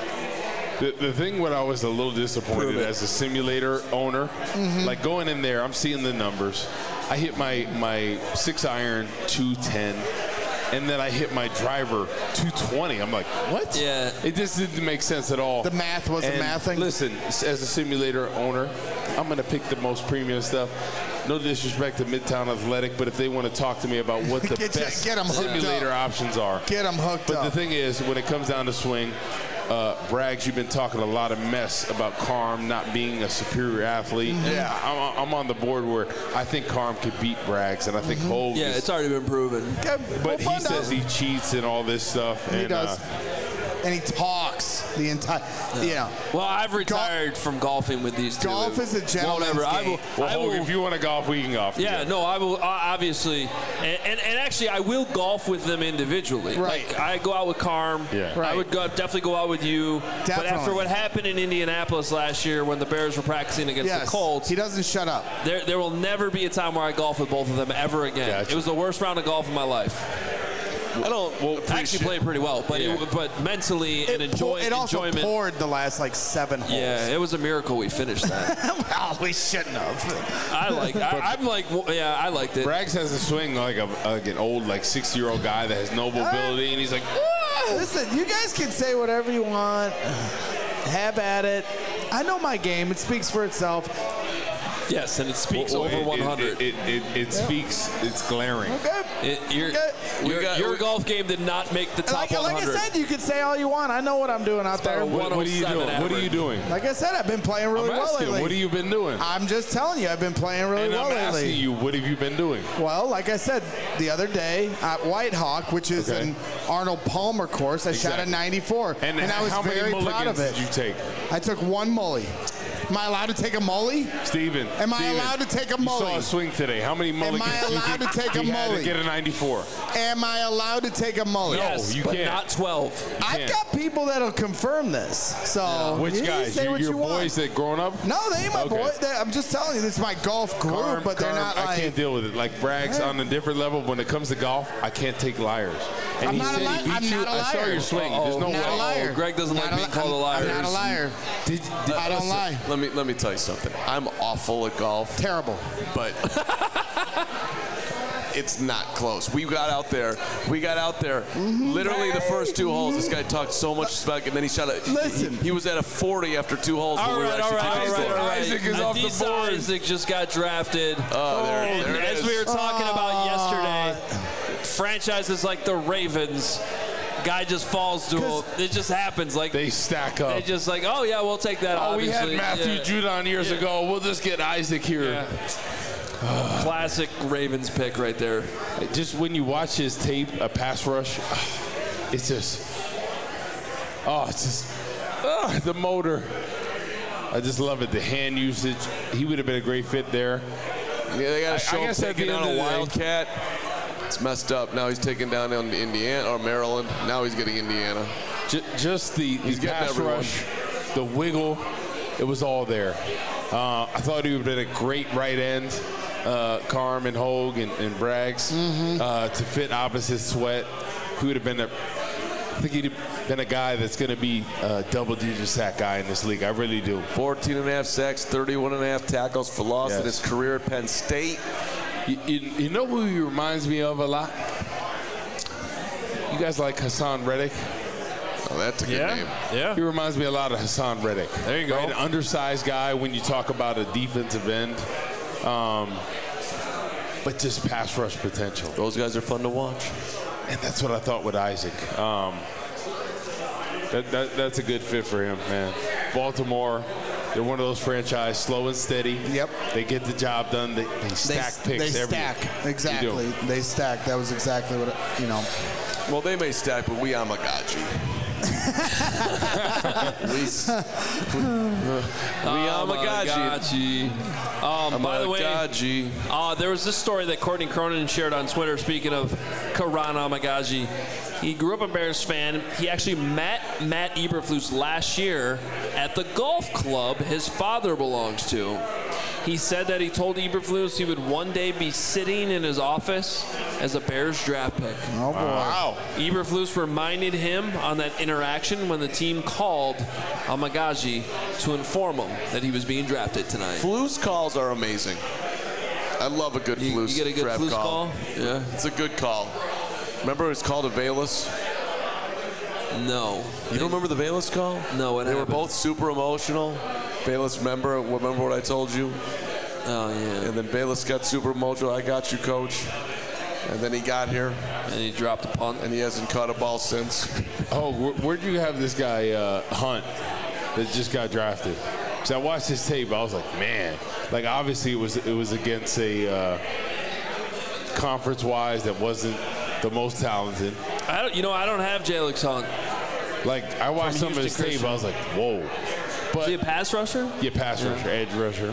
Speaker 3: The thing when I was a little disappointed as a simulator owner, like going in there, I'm seeing the numbers. I hit my 6-iron 210. And then I hit my driver 220. I'm like, what?
Speaker 1: Yeah.
Speaker 3: It just didn't make sense at all.
Speaker 4: The math wasn't mathing.
Speaker 3: Listen, as a simulator owner, I'm going to pick the most premium stuff. No disrespect to Midtown Athletic, but if they want to talk to me about what the best simulator options are.
Speaker 4: Get them hooked up.
Speaker 3: But the thing is, when it comes down to swing, Braggs, you've been talking a lot of mess about Carm not being a superior athlete. Yeah, I'm on the board where I think Carm could beat Braggs, and I think Hogue.
Speaker 1: Yeah, it's already been proven.
Speaker 3: But he says he cheats and all this stuff.
Speaker 4: He does. And he talks the entire,
Speaker 1: Well, I've retired from golfing with these two.
Speaker 4: Golf is a gentleman's game.
Speaker 3: If you want to golf, we can golf.
Speaker 1: Yeah, no, I will obviously, and actually, I will golf with them individually.
Speaker 4: Right.
Speaker 1: Like, I go out with Carm.
Speaker 3: Yeah.
Speaker 1: I would definitely go out with you.
Speaker 4: Definitely.
Speaker 1: But after what happened in Indianapolis last year, when the Bears were practicing against the Colts,
Speaker 4: he doesn't shut up.
Speaker 1: There will never be a time where I golf with both of them ever again.
Speaker 3: Gotcha.
Speaker 1: It was the worst round of golf of my life.
Speaker 2: I
Speaker 1: actually played pretty well, but but mentally and enjoyment.
Speaker 4: It also poured the last 7 holes.
Speaker 1: Yeah, it was a miracle we finished that.
Speaker 4: Well, we shouldn't have.
Speaker 1: I liked it.
Speaker 3: Braggs has a swing like an old 60-year-old guy that has no mobility, and he's like,
Speaker 4: listen, you guys can say whatever you want. Have at it. I know my game. It speaks for itself.
Speaker 1: Yes, and it speaks over 100.
Speaker 3: It speaks. It's glaring.
Speaker 4: Okay.
Speaker 1: Your golf game did not make the top 100.
Speaker 4: Like I said, you can say all you want. I know what I'm doing out there.
Speaker 3: What are you doing? What are you doing?
Speaker 4: Like I said, I've been playing really well lately.
Speaker 3: What have you been doing?
Speaker 4: I'm just telling you, I've been playing really well lately.
Speaker 3: I'm asking you, what have you been doing?
Speaker 4: Well, like I said, the other day at Whitehawk, which is an Arnold Palmer course, I shot a 94, and I was very proud of it.
Speaker 3: How many mulligans did you take?
Speaker 4: I took 1 mully. Am I allowed to take a mully?
Speaker 3: Steven.
Speaker 4: Am I allowed to take a mully?
Speaker 3: You saw a swing today. How many mulligans
Speaker 4: did you take? Am I allowed to take a mully?
Speaker 3: You had to get a 94.
Speaker 4: Am I allowed to take a mully?
Speaker 1: Yes,
Speaker 3: you
Speaker 1: but
Speaker 3: can't.
Speaker 1: not 12.
Speaker 4: I've got people that'll confirm this. So
Speaker 3: which guys? Your boys that growing up?
Speaker 4: No, they ain't my boys. I'm just telling you, this is my golf group, but they're not like.
Speaker 3: I can't deal with it. Like Braggs on a different level. When it comes to golf, I can't take liars. And
Speaker 4: I'm not a liar. I'm not a liar.
Speaker 3: I saw your swing. There's no
Speaker 4: not
Speaker 3: way.
Speaker 4: a liar.
Speaker 1: Greg doesn't like being called a liar.
Speaker 4: I'm not a liar. I don't lie.
Speaker 2: Let me tell you something. I'm awful at golf.
Speaker 4: Terrible.
Speaker 2: But it's not close. We got out there. Literally the first 2 holes. This guy talked so much smack, and then he shot a.
Speaker 4: Listen.
Speaker 2: He was at a 40 after 2 holes.
Speaker 1: All right.
Speaker 3: Isaac is off the board.
Speaker 1: Isaac just got drafted.
Speaker 2: There it
Speaker 1: as
Speaker 2: is.
Speaker 1: we were talking about yesterday, franchises like the Ravens Guy just falls to him. It just happens. Like
Speaker 3: they stack up.
Speaker 1: They just like, oh yeah, we'll take that.
Speaker 3: Oh,
Speaker 1: obviously.
Speaker 3: we had Matthew Judon years ago. We'll just get Isaac here.
Speaker 1: Yeah. Classic Ravens pick right there.
Speaker 3: Just when you watch his tape, a pass rush, it's just the motor. I just love it. The hand usage. He would have been a great fit there.
Speaker 2: Yeah, they got to show him taking down a Wildcat. It's messed up. Now he's taking down Indiana or Maryland. Now he's getting Indiana.
Speaker 3: Just the pass rush, the wiggle, it was all there. I thought he would have been a great right end, Carm and Hogue and Braggs, to fit opposite Sweat. He would have been I think he'd have been a guy that's going to be a double-digit sack guy in this league. I really do.
Speaker 2: 14.5 sacks, 31.5 tackles for loss in his career at Penn State.
Speaker 3: You know who he reminds me of a lot? You guys like Hassan Reddick?
Speaker 2: Oh, that's a good name.
Speaker 1: Yeah.
Speaker 3: He reminds me a lot of Hassan Reddick.
Speaker 1: There you go.
Speaker 3: Right? An undersized guy when you talk about a defensive end. But just pass rush potential.
Speaker 2: Those guys are fun to watch.
Speaker 3: And that's what I thought with Isaac. That's a good fit for him, man. Baltimore, they're one of those franchise, slow and steady.
Speaker 4: Yep.
Speaker 3: They get the job done. They stack picks every year.
Speaker 4: Exactly. They stack. That was exactly what,
Speaker 2: Well, they may stack, but we Amagaji. we Amagaji.
Speaker 1: By the way, there was this story that Courtney Cronin shared on Twitter, speaking of Karan Amagaji. He grew up a Bears fan. He actually met Matt Eberflus last year at the golf club his father belongs to. He said that he told Eberflus he would one day be sitting in his office as a Bears draft pick.
Speaker 4: Oh, boy.
Speaker 2: Wow.
Speaker 1: Eberflus reminded him on that interaction when the team called Amagaji to inform him that he was being drafted tonight.
Speaker 2: Flus calls are amazing. I love a good Flus
Speaker 1: You get a good
Speaker 2: draft
Speaker 1: Flus call?
Speaker 2: Yeah. It's a good call. Remember it was called a Velus?
Speaker 1: No.
Speaker 2: You don't remember the Velus call?
Speaker 1: No, what
Speaker 2: They
Speaker 1: happened?
Speaker 2: were both super emotional. Velus, remember what I told you?
Speaker 1: Oh, yeah.
Speaker 2: And then Velus got super emotional. I got you, coach. And then he got here.
Speaker 1: And he dropped a punt.
Speaker 2: And he hasn't caught a ball since.
Speaker 3: Oh, where'd you have this guy, Hunt, that just got drafted? So I watched his tape. I was like, man. Like, obviously, it was against a conference-wise that wasn't the most talented.
Speaker 1: I don't have Jalix Hunt.
Speaker 3: Like, I watched some of his tape. I was like, whoa. But,
Speaker 1: is he a pass rusher?
Speaker 3: Yeah, pass rusher, edge rusher.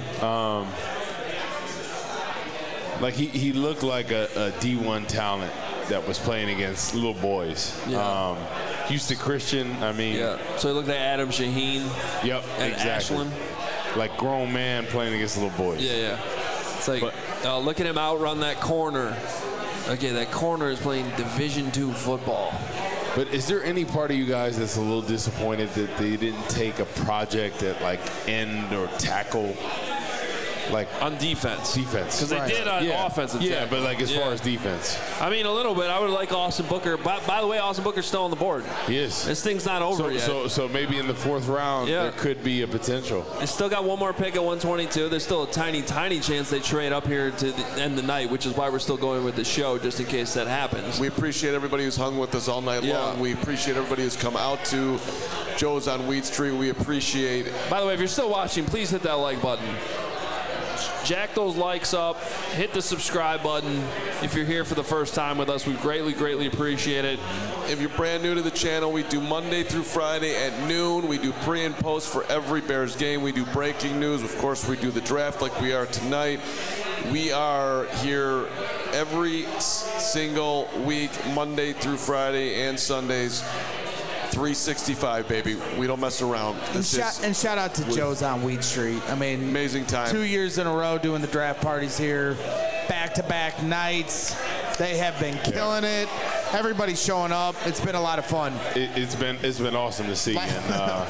Speaker 3: Like, he looked like a D1 talent that was playing against little boys.
Speaker 1: Yeah.
Speaker 3: Houston Christian, I mean.
Speaker 1: Yeah. So he looked like Adam Shaheen.
Speaker 3: Yep,
Speaker 1: and
Speaker 3: exactly.
Speaker 1: Ashland.
Speaker 3: Like grown man playing against little boys.
Speaker 1: Yeah. It's like, look at him outrun that corner. Okay, that corner is playing Division II football.
Speaker 3: But is there any part of you guys that's a little disappointed that they didn't take a project at like end or tackle? Like
Speaker 1: on defense.
Speaker 3: Because
Speaker 1: they did on offensive.
Speaker 3: Yeah, but like as far as defense.
Speaker 1: I mean, a little bit. I would like Austin Booker. By the way, Austin Booker's still on the board.
Speaker 3: He is.
Speaker 1: This thing's not over yet.
Speaker 3: So maybe in the fourth round, there could be a potential.
Speaker 1: They still got one more pick at 122. There's still a tiny, tiny chance they trade up here to end the night, which is why we're still going with the show, just in case that happens.
Speaker 2: We appreciate everybody who's hung with us all night long. We appreciate everybody who's come out to Joe's on Weed Street. We appreciate it.
Speaker 1: By the way, if you're still watching, please hit that like button. Jack those likes up. Hit the subscribe button. If you're here for the first time with us, we greatly, greatly appreciate it.
Speaker 2: If you're brand new to the channel, we do Monday through Friday at noon. We do pre and post for every Bears game. We do breaking news. Of course, we do the draft like we are tonight. We are here every single week, Monday through Friday and Sundays. 365, baby. We don't mess around.
Speaker 4: And shout out to Joe's on Weed Street. I mean,
Speaker 2: amazing time.
Speaker 4: 2 years in a row doing the draft parties here, back-to-back nights. They have been killing it. Everybody's showing up. It's been a lot of fun.
Speaker 3: It's been awesome to see. And,
Speaker 4: man.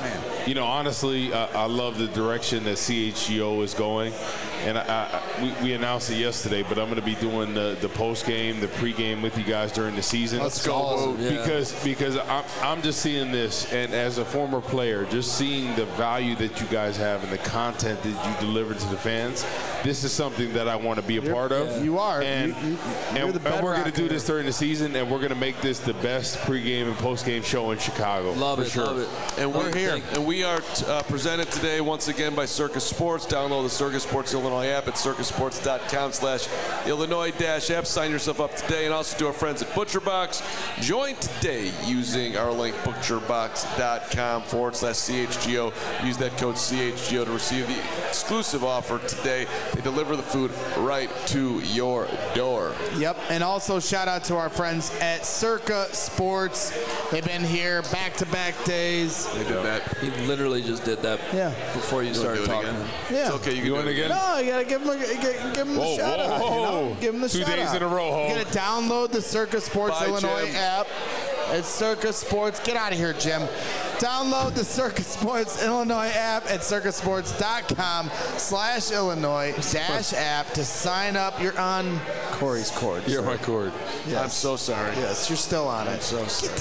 Speaker 3: honestly, I love the direction that CHGO is going. And we announced it yesterday, but I'm going to be doing the post game, the pre-game with you guys during the season.
Speaker 2: Let's go. Awesome.
Speaker 1: Yeah.
Speaker 3: Because I'm just seeing this, and as a former player, just seeing the value that you guys have and the content that you deliver to the fans. This is something that I want to be a part of.
Speaker 6: You are.
Speaker 3: And we're going to do this during the season, and we're going to make this the best pre-game and post-game show in Chicago.
Speaker 1: Love it.
Speaker 3: Sure.
Speaker 1: Love it.
Speaker 2: And we're here. And we are presented today once again by Circus Sports. Download the Circus Sports Illinois app at circusports.com/Illinois-app. Sign yourself up today. And also to our friends at ButcherBox. Join today using our link butcherbox.com/CHGO. Use that code CHGO to receive the exclusive offer today. They deliver the food right to your door.
Speaker 4: Yep, and also shout out to our friends at Circa Sports. They've been here back-to-back days.
Speaker 2: They did that.
Speaker 1: He literally just did that before you started talking.
Speaker 4: Yeah.
Speaker 2: It's okay. You can do it again.
Speaker 4: No, you gotta give him the shout out. You know? Give him the
Speaker 3: 2
Speaker 4: shout
Speaker 3: days
Speaker 4: out.
Speaker 3: in a row, Ho.
Speaker 4: You gotta download the Circa Sports
Speaker 2: Bye,
Speaker 4: Illinois
Speaker 2: Jim.
Speaker 4: app. It's Circa Sports. Get out of here, Jim. Download the Circa Sports Illinois app at circusports.com/Illinois-app to sign up. You're on Corey's cord.
Speaker 3: You're
Speaker 4: sir.
Speaker 3: my cord.
Speaker 4: Yes.
Speaker 2: I'm so sorry.
Speaker 4: Yes, you're still on it.
Speaker 2: I'm so sorry.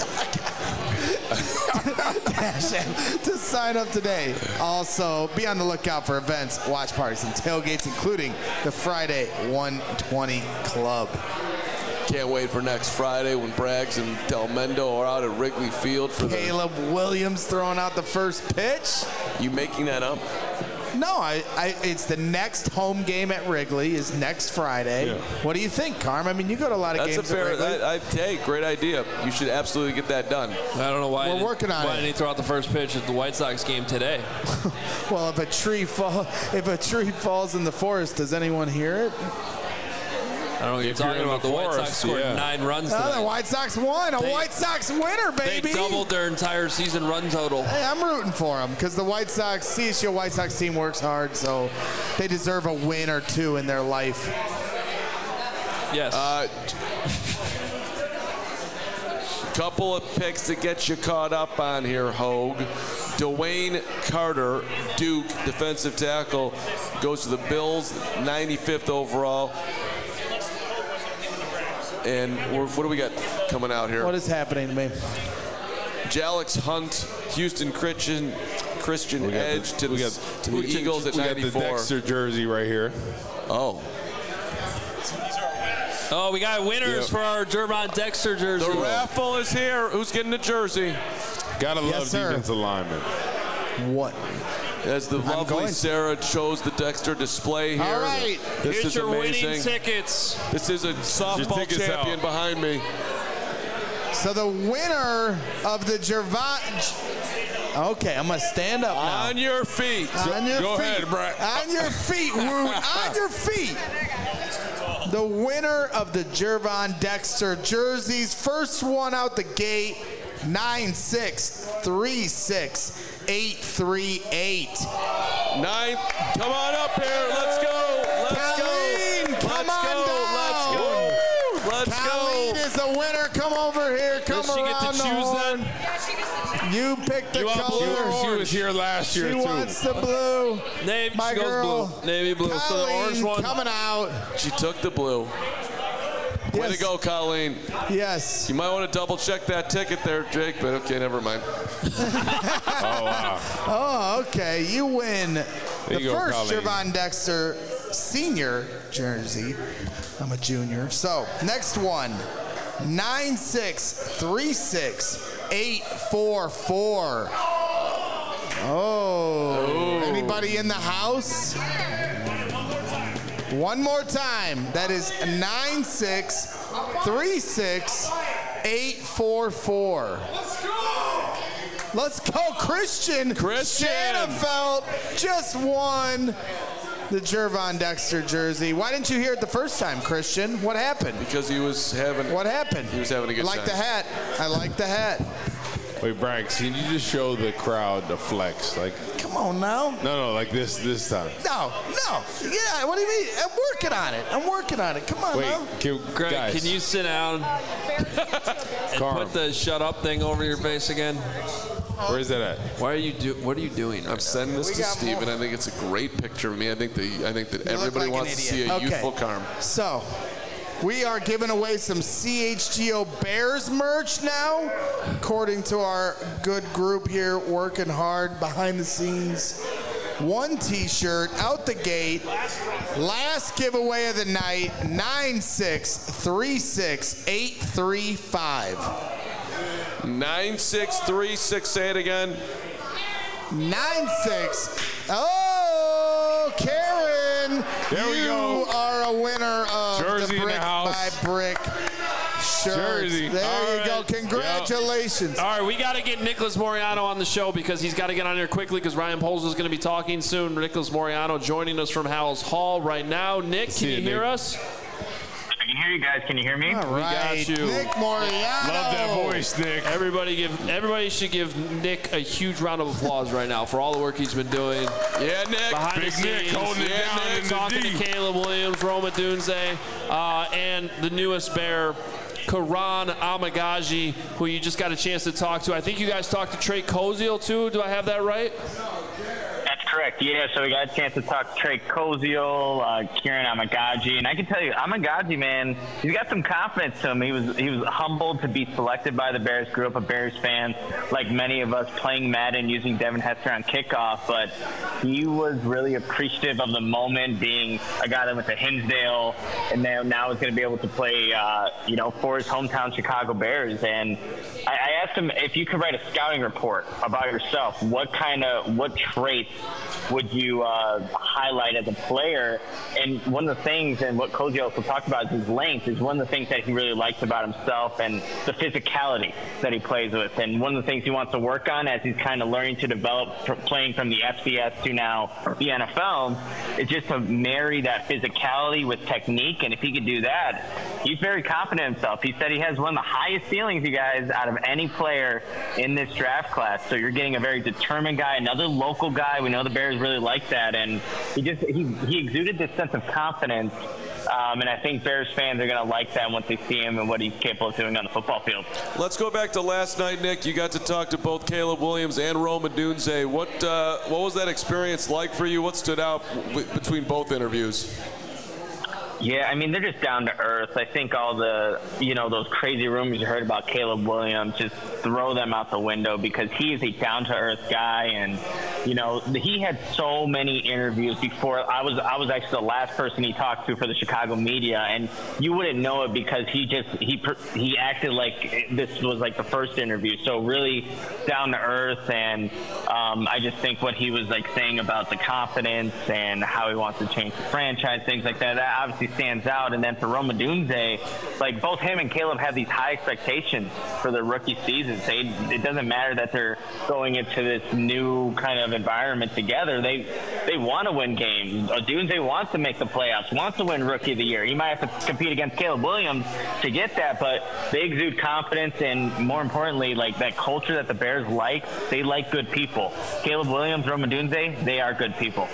Speaker 4: Dash app to sign up today. Also, be on the lookout for events, watch parties, and tailgates, including the Friday 120 Club.
Speaker 2: Can't wait for next Friday when Braggs and Del Mendo are out at Wrigley Field for
Speaker 4: Caleb Williams throwing out the first pitch.
Speaker 2: You making that up?
Speaker 4: No, it's the next home game at Wrigley is next Friday.
Speaker 3: Yeah.
Speaker 4: What do you think, Carm? I mean, you go to a lot of
Speaker 2: That's a
Speaker 4: games at
Speaker 2: fair.
Speaker 4: Wrigley.
Speaker 2: Hey, great idea. You should absolutely get that done.
Speaker 1: I don't know why.
Speaker 4: We're working on
Speaker 1: Why
Speaker 4: it.
Speaker 1: didn't he throw out the first pitch at the White Sox game today?
Speaker 4: Well, if a tree falls in the forest, does anyone hear it?
Speaker 1: I don't know what you're
Speaker 3: If you're
Speaker 1: talking
Speaker 3: in
Speaker 1: about.
Speaker 3: the
Speaker 1: The White Sox
Speaker 3: forest,
Speaker 1: scored
Speaker 3: yeah.
Speaker 1: 9 runs
Speaker 4: Oh, the
Speaker 1: today.
Speaker 4: White Sox won. A
Speaker 1: They-
Speaker 4: White Sox winner,
Speaker 1: They
Speaker 4: baby.
Speaker 1: doubled their entire season run total.
Speaker 4: Hey, I'm rooting for them because the White Sox, CSU White Sox team works hard, so they deserve a win or two in their life.
Speaker 1: Yes.
Speaker 2: Couple of picks to get you caught up on here, Hogue. Dwayne Carter, Duke, defensive tackle, goes to the Bills, 95th overall. And what do we got coming out here?
Speaker 4: What is happening to me?
Speaker 2: Jalex Hunt, Houston Christian Edge to the Eagles at
Speaker 3: We got
Speaker 2: 94.
Speaker 3: the Dexter jersey right here.
Speaker 2: Oh,
Speaker 1: oh, we got winners for our Jervon Dexter jersey.
Speaker 2: the raffle is here. Who's getting the jersey?
Speaker 3: Gotta love
Speaker 4: sir.
Speaker 3: defensive linemen.
Speaker 4: What?
Speaker 2: As the lovely
Speaker 4: going to.
Speaker 2: Sarah chose the Dexter display here.
Speaker 4: All right.
Speaker 2: This
Speaker 1: Here's
Speaker 2: is
Speaker 1: your
Speaker 2: amazing.
Speaker 1: winning tickets.
Speaker 2: This is a softball
Speaker 3: tickets
Speaker 2: champion
Speaker 3: out.
Speaker 2: behind me.
Speaker 4: So the winner of the Jervon. Okay, I'm gonna stand up now.
Speaker 2: On your feet.
Speaker 4: On your
Speaker 3: Go
Speaker 4: feet.
Speaker 3: ahead, Brett.
Speaker 4: On your feet, Woot. On your feet. The winner of the Jervon Dexter jerseys, first one out the gate, 9636838.
Speaker 2: Nine. Come on up here. Let's go. Let's
Speaker 4: Colleen,
Speaker 2: go.
Speaker 4: come
Speaker 2: Let's
Speaker 4: on
Speaker 2: go.
Speaker 4: down.
Speaker 2: Let's go. Let's
Speaker 4: Colleen
Speaker 2: go.
Speaker 4: is the winner. Come over here. Come
Speaker 1: Does she get
Speaker 4: around
Speaker 1: to
Speaker 4: the
Speaker 1: choose
Speaker 4: horn.
Speaker 1: then?
Speaker 4: You pick the
Speaker 1: You want blue or
Speaker 4: color.
Speaker 3: She was here last year,
Speaker 4: She
Speaker 3: too.
Speaker 4: wants the blue.
Speaker 1: Navy,
Speaker 4: My
Speaker 1: she goes
Speaker 4: girl.
Speaker 1: blue. Navy blue. So the orange
Speaker 4: Colleen
Speaker 1: one.
Speaker 4: coming out.
Speaker 2: She took the blue. Way to
Speaker 4: Yes.
Speaker 2: go, Colleen.
Speaker 4: Yes.
Speaker 2: You might want to double check that ticket there, Jake, but okay, never mind.
Speaker 3: Oh, wow.
Speaker 4: Oh, okay. You win the
Speaker 3: you go,
Speaker 4: first
Speaker 3: Colleen.
Speaker 4: Jervon Dexter senior jersey. I'm a junior. So, next one. 9636844. Oh. Anybody in the house? One more time. That is 9636844. Let's go, Christian.
Speaker 2: Christian.
Speaker 4: Shanafelt just won the Jervon Dexter jersey. Why didn't you hear it the first time, Christian? What happened?
Speaker 2: Because he was having.
Speaker 4: What happened?
Speaker 2: He was having a good
Speaker 4: I like
Speaker 2: time.
Speaker 4: the hat. I like the hat.
Speaker 3: Wait, Braggs, can you just show the crowd the flex? Like,
Speaker 4: Come on now.
Speaker 3: no, like this time.
Speaker 4: No. Yeah, what do you mean? I'm working on it. Come on
Speaker 3: Wait,
Speaker 4: now.
Speaker 1: Greg,
Speaker 3: guys,
Speaker 1: can you sit down and
Speaker 3: Carm.
Speaker 1: put the shut up thing over your face again?
Speaker 3: Where is that at?
Speaker 1: What are you doing?
Speaker 2: I'm sending this to Steve, and I think it's a great picture of me. I think that everybody wants to see a youthful Carm.
Speaker 4: So, we are giving away some CHGO Bears merch now, according to our good group here, working hard behind the scenes. 1 T-shirt out the gate. Last giveaway of the night, 9636835.
Speaker 2: 9636. Say it again.
Speaker 4: 96. Oh, Karen,
Speaker 3: there we go.
Speaker 4: You are a winner of
Speaker 3: Jersey
Speaker 4: the Brick by Brick shirt.
Speaker 3: Jersey.
Speaker 4: There you go. Congratulations.
Speaker 1: All right, we got to get Nicholas Moreano on the show because he's got to get on here quickly because Ryan Poles is going to be talking soon. Nicholas Moreano joining us from Howells Hall right now. Nick, can you hear us?
Speaker 5: I can hear you guys. Can you hear me?
Speaker 4: All right.
Speaker 1: We got you.
Speaker 4: Nick Moreano.
Speaker 3: Love that voice, Nick.
Speaker 1: Everybody should give Nick a huge round of applause right now for all the work he's been doing.
Speaker 2: Yeah, Nick.
Speaker 1: Behind
Speaker 3: Big
Speaker 1: the scenes.
Speaker 3: Nick holding it down
Speaker 1: Nick
Speaker 3: in the
Speaker 1: talking
Speaker 3: D.
Speaker 1: to Caleb Williams, Roma Dunze, and the newest Bear, Karan Amagaji, who you just got a chance to talk to. I think you guys talked to Trey Koziel, too. Do I have that right?
Speaker 5: That's correct. Yeah, so we got a chance to talk to Trey Koziel, Kieran Amagaji, and I can tell you, Amagaji, man, he's got some confidence to him. He was humbled to be selected by the Bears. Grew up a Bears fan, like many of us, playing Madden, using Devin Hester on kickoff, but he was really appreciative of the moment, being a guy that went to Hinsdale, and now is going to be able to play, for his hometown Chicago Bears. And I asked him if you could write a scouting report about yourself, what traits would you highlight as a player? And one of the things, and what Cozy also talked about, is his length, is one of the things that he really likes about himself, and the physicality that he plays with. And one of the things he wants to work on as he's kind of learning to develop playing from the FCS to now the NFL is just to marry that physicality with technique. And if he could do that, he's very confident in himself. He said he has one of the highest ceilings, you guys, out of any player in this draft class. So you're getting a very determined guy, another local guy. We know the Bears really like that, and he exuded this sense of confidence, and I think Bears fans are going to like that once they see him and what he's capable of doing on the football field.
Speaker 2: Let's go back to last night, Nick. You got to talk to both Caleb Williams and Roma Dunze. What was that experience like for you? What stood out between both interviews?
Speaker 5: Yeah, I mean, they're just down to earth. I think all the, those crazy rumors you heard about Caleb Williams, just throw them out the window, because he is a down to earth guy. And, he had so many interviews before. I was actually the last person he talked to for the Chicago media, and you wouldn't know it because he acted like this was like the first interview. So really down to earth. And I just think what he was like saying about the confidence and how he wants to change the franchise, things like that obviously stands out. And then for Roma Dunze, like both him and Caleb have these high expectations for their rookie seasons. It doesn't matter that they're going into this new kind of environment together. They want to win games. Dunze wants to make the playoffs, wants to win Rookie of the Year. He might have to compete against Caleb Williams to get that, but they exude confidence, and more importantly, like that culture that the Bears like. They like good people. Caleb Williams, Roma Dunze, they are good people.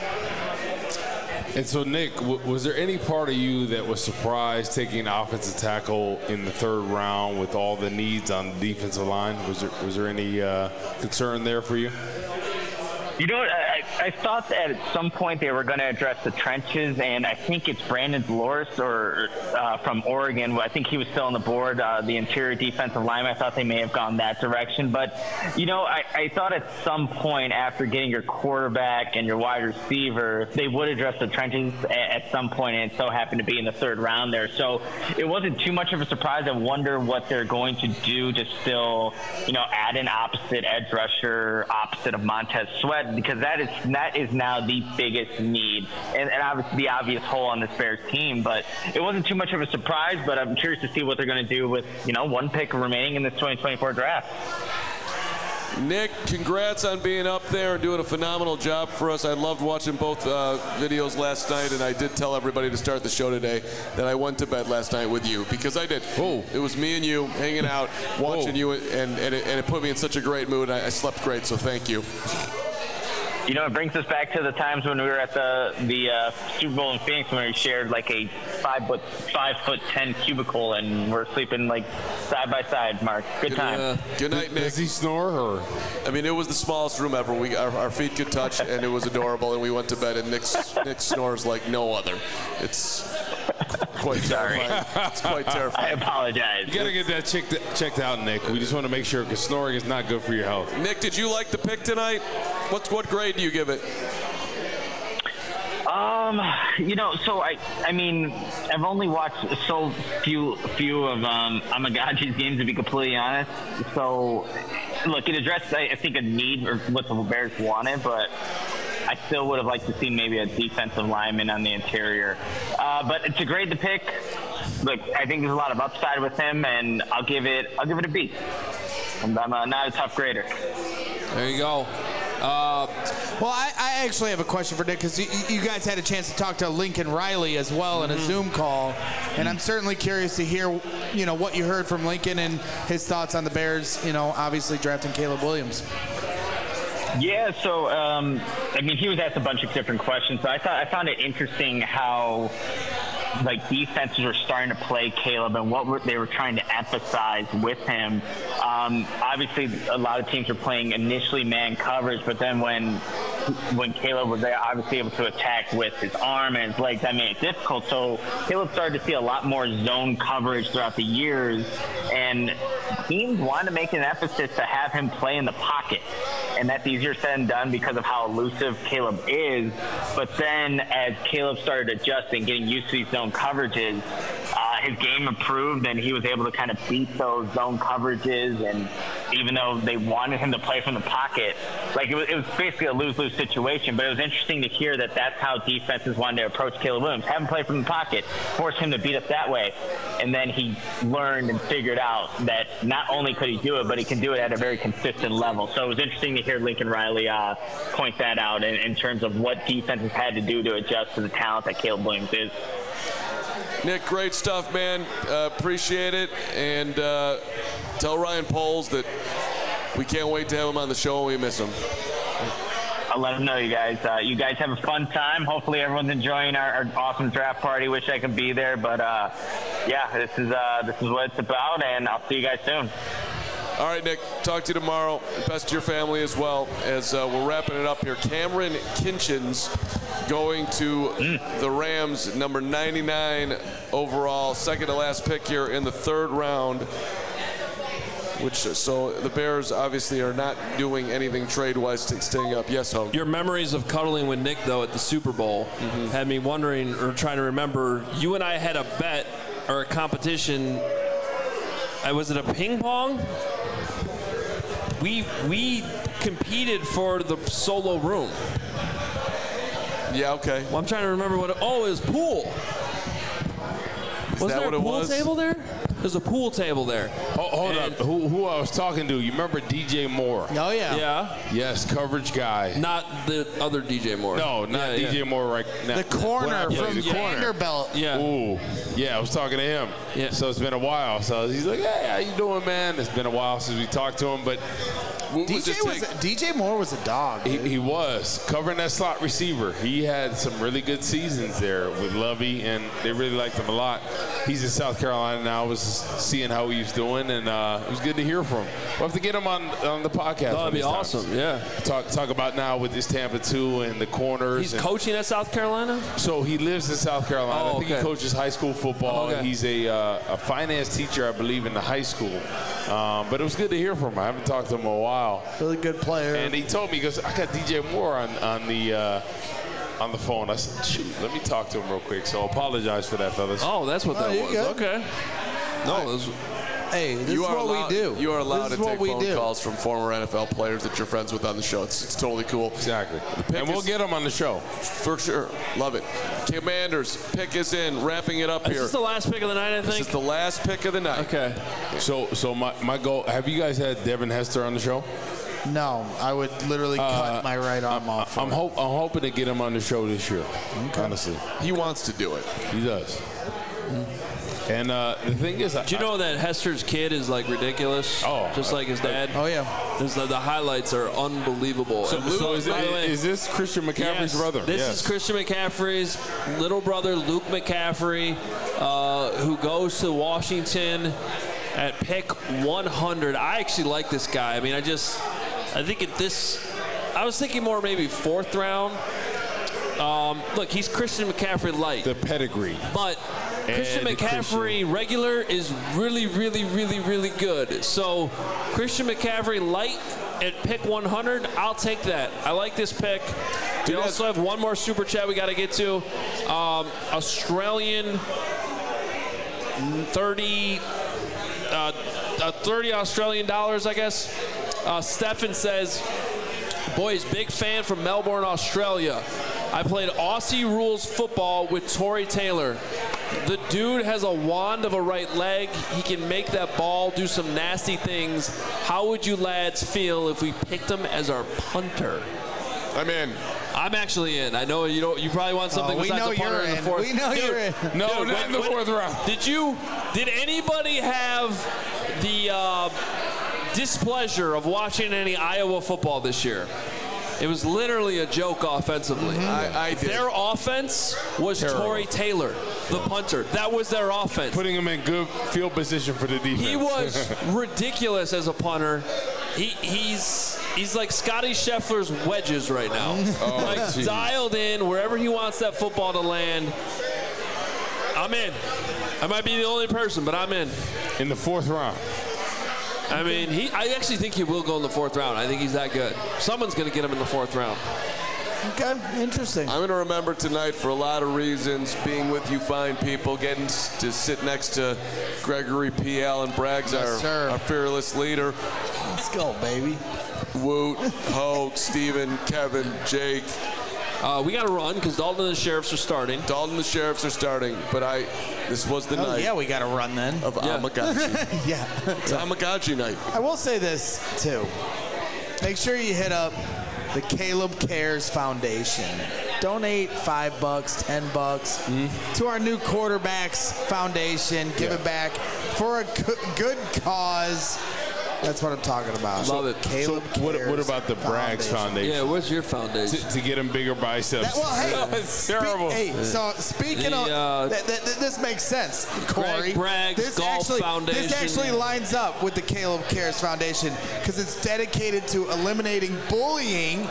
Speaker 3: And so, Nick, was there any part of you that was surprised taking an offensive tackle in the third round with all the needs on the defensive line? Was there any concern there for you?
Speaker 5: You know what? I thought that at some point they were going to address the trenches, and I think it's Brandon Dolores from Oregon. I think he was still on the board, the interior defensive lineman. I thought they may have gone that direction. But, I thought at some point after getting your quarterback and your wide receiver, they would address the trenches at some point, and it so happened to be in the third round there. So it wasn't too much of a surprise. I wonder what they're going to do to still, add an opposite edge rusher, opposite of Montez Sweat, because that is now the biggest need and obviously the obvious hole on this Bears team. But it wasn't too much of a surprise, but I'm curious to see what they're going to do with, one pick remaining in this 2024 draft.
Speaker 2: Nick, congrats on being up there and doing a phenomenal job for us. I loved watching both videos last night, and I did tell everybody to start the show today that I went to bed last night with you, because I did. Oh, it was me and you hanging out, watching you, and it put me in such a great mood. I slept great, so thank you.
Speaker 5: It brings us back to the times when we were at the Super Bowl in Phoenix, when we shared like a 5'10" cubicle, and we're sleeping like side by side, Mark. Good time.
Speaker 2: Good night, Nick.
Speaker 3: Does he snore? Or?
Speaker 2: I mean, it was the smallest room ever. Our feet could touch, and it was adorable. And we went to bed, and Nick snores like no other. It's quite terrifying. It's quite terrifying.
Speaker 5: I apologize.
Speaker 3: You got to get that checked out, Nick. We just want to make sure, because snoring is not good for your health.
Speaker 2: Nick, did you like the pick tonight? What grade do you give it?
Speaker 5: So I mean, I've only watched so few of Amagaji's games, to be completely honest. So, look, it addressed, I think, a need or what the Bears wanted, but I still would have liked to see maybe a defensive lineman on the interior. But to grade the pick, look, I think there's a lot of upside with him, and I'll give it a B. I'm not a tough grader.
Speaker 1: There you go.
Speaker 4: Well, I actually have a question for Nick, because you guys had a chance to talk to Lincoln Riley as well in a Zoom call, and I'm certainly curious to hear, what you heard from Lincoln and his thoughts on the Bears, obviously drafting Caleb Williams.
Speaker 5: Yeah, so I mean, he was asked a bunch of different questions, but I found it interesting how defenses were starting to play Caleb and what they were trying to emphasize with him. Obviously, a lot of teams were playing initially man coverage, but then when Caleb was there, obviously able to attack with his arm and his legs, that made it difficult. So Caleb started to see a lot more zone coverage throughout the years, and teams wanted to make an emphasis to have him play in the pocket. And that's easier said than done because of how elusive Caleb is. But then as Caleb started adjusting, getting used to these zone coverages, his game improved, and he was able to kind of beat those zone coverages. And even though they wanted him to play from the pocket, it was basically a lose-lose situation. But it was interesting to hear that that's how defenses wanted to approach Caleb Williams. Have him play from the pocket, force him to beat us that way. And then he learned and figured out that not only could he do it, but he can do it at a very consistent level. So it was interesting to hear Lincoln Riley point that out in terms of what defenses had to do to adjust to the talent that Caleb Williams is.
Speaker 2: Nick, great stuff, man. Appreciate it. And tell Ryan Poles that we can't wait to have him on the show and we miss him.
Speaker 5: I'll let him know, you guys. You guys have a fun time. Hopefully everyone's enjoying our awesome draft party. Wish I could be there. But, this is what it's about, and I'll see you guys soon.
Speaker 2: All right, Nick, talk to you tomorrow. Best to your family as well, as we're wrapping it up here. Cameron Kinchins going to the Rams, number 99 overall, second to last pick here in the third round. So the Bears obviously are not doing anything trade-wise, staying up. Yes, Hogue.
Speaker 1: Your memories of cuddling with Nick, though, at the Super Bowl had me wondering or trying to remember. You and I had a bet or a competition. Was it a ping pong? We competed for the solo room.
Speaker 2: Yeah, okay.
Speaker 1: Well, I'm trying to remember what it was pool. Was there a pool table there? There's a pool table there.
Speaker 3: Oh, hold on. Who I was talking to? You remember DJ Moore?
Speaker 4: Oh, yeah.
Speaker 1: Yeah.
Speaker 3: Yes, coverage guy.
Speaker 1: Not the other DJ Moore.
Speaker 3: No, not DJ Moore right now.
Speaker 4: The corner from Vanderbilt.
Speaker 1: Yeah.
Speaker 3: Ooh. Yeah, I was talking to him.
Speaker 1: Yeah.
Speaker 3: So it's been a while. So he's like, hey, how you doing, man? It's been a while since we talked to him, but
Speaker 4: DJ Moore was a dog.
Speaker 3: He was covering that slot receiver. He had some really good seasons there with Lovey, and they really liked him a lot. He's in South Carolina now. I was seeing how he was doing, and it was good to hear from him. We'll have to get him on the podcast.
Speaker 1: That'd be awesome. Yeah.
Speaker 3: Talk about now with this Tampa 2 and the corners.
Speaker 1: He's coaching at South Carolina?
Speaker 3: So he lives in South Carolina. I think he coaches high school football.
Speaker 1: Okay.
Speaker 3: He's a finance teacher, I believe, in the high school. But it was good to hear from him. I haven't talked to him in a while.
Speaker 4: Really good player.
Speaker 3: And he told me, he goes, I got DJ Moore on the phone. I said, shoot, let me talk to him real quick. So apologize for that, fellas.
Speaker 1: Oh, that's what that was.
Speaker 4: Good.
Speaker 1: Okay. No,
Speaker 4: hey, this is what we do.
Speaker 2: You are allowed to take phone calls from former NFL players that you're friends with on the show. It's totally cool.
Speaker 3: Exactly. And we'll get them on the show.
Speaker 2: For sure. Love it. Commanders, pick is in. Wrapping it up here.
Speaker 1: This is the last pick of the night, I think?
Speaker 2: This is the last pick of the night.
Speaker 1: Okay.
Speaker 3: So my goal, have you guys had Devin Hester on the show?
Speaker 4: No, I would literally cut my right arm off.
Speaker 3: I'm hoping to get him on the show this year, honestly.
Speaker 2: He wants to do it.
Speaker 3: He does. And the thing is,
Speaker 1: do you know that Hester's kid is like ridiculous?
Speaker 3: Oh,
Speaker 1: just like his dad.
Speaker 4: Oh yeah.
Speaker 1: The highlights are unbelievable.
Speaker 3: So is this Christian McCaffrey's brother?
Speaker 1: This is Christian McCaffrey's little brother, Luke McCaffrey, who goes to Washington. at pick 100. I actually like this guy. I mean, I think I was thinking more maybe 4th round. Look, he's Christian McCaffrey light.
Speaker 3: The pedigree.
Speaker 1: But Christian McCaffrey regular is really, really, really, really good. So Christian McCaffrey light at pick 100, I'll take that. I like this pick. We also have one more super chat we got to get to. Australian 30 Australian dollars, I guess. Stefan says, boys, big fan from Melbourne, Australia. I played Aussie rules football with Tory Taylor. The dude has a wand of a right leg. He can make that ball do some nasty things. How would you lads feel if we picked him as our punter?
Speaker 2: I'm in.
Speaker 1: I'm actually in. I know you don't. You probably want something besides a punter in the 4th.
Speaker 4: We know you're in.
Speaker 3: No, not in the 4th round.
Speaker 1: Did anybody have the displeasure of watching any Iowa football this year? It was literally a joke offensively.
Speaker 2: I did.
Speaker 1: Their offense was Tory Taylor, the punter. That was their offense.
Speaker 3: Putting him in good field position for the defense.
Speaker 1: He was ridiculous as a punter. He's like Scotty Scheffler's wedges right now. Dialed in wherever he wants that football to land. I'm in. I might be the only person, but I'm in.
Speaker 3: In the 4th round.
Speaker 1: I mean, I actually think he will go in the 4th round. I think he's that good. Someone's going to get him in the 4th round.
Speaker 4: Okay, interesting.
Speaker 2: I'm going to remember tonight for a lot of reasons, being with you fine people, getting to sit next to Gregory P. Allen Braggs, our fearless leader.
Speaker 4: Let's go, baby.
Speaker 2: Woot, Hoke, Steven, Kevin, Jake.
Speaker 1: We got to run because Dalton and the Sheriffs are starting.
Speaker 2: But this was the night.
Speaker 4: Yeah, we got to run then.
Speaker 2: Of Amagaji.
Speaker 4: Yeah.
Speaker 2: It's Amagaji night.
Speaker 4: I will say this, too. Make sure you hit up the Caleb Cares Foundation. Donate $5, $10 to our new quarterbacks foundation. Give it back for a good cause. That's what I'm talking about.
Speaker 1: Love it.
Speaker 4: Caleb
Speaker 3: What about the Braggs Foundation?
Speaker 1: Yeah, what's your foundation?
Speaker 3: To get him bigger biceps.
Speaker 4: It's
Speaker 3: terrible.
Speaker 4: So speaking of, this makes sense, Corey.
Speaker 1: Greg Braggs Golf Foundation.
Speaker 4: This actually lines up with the Caleb Cares Foundation because it's dedicated to eliminating bullying,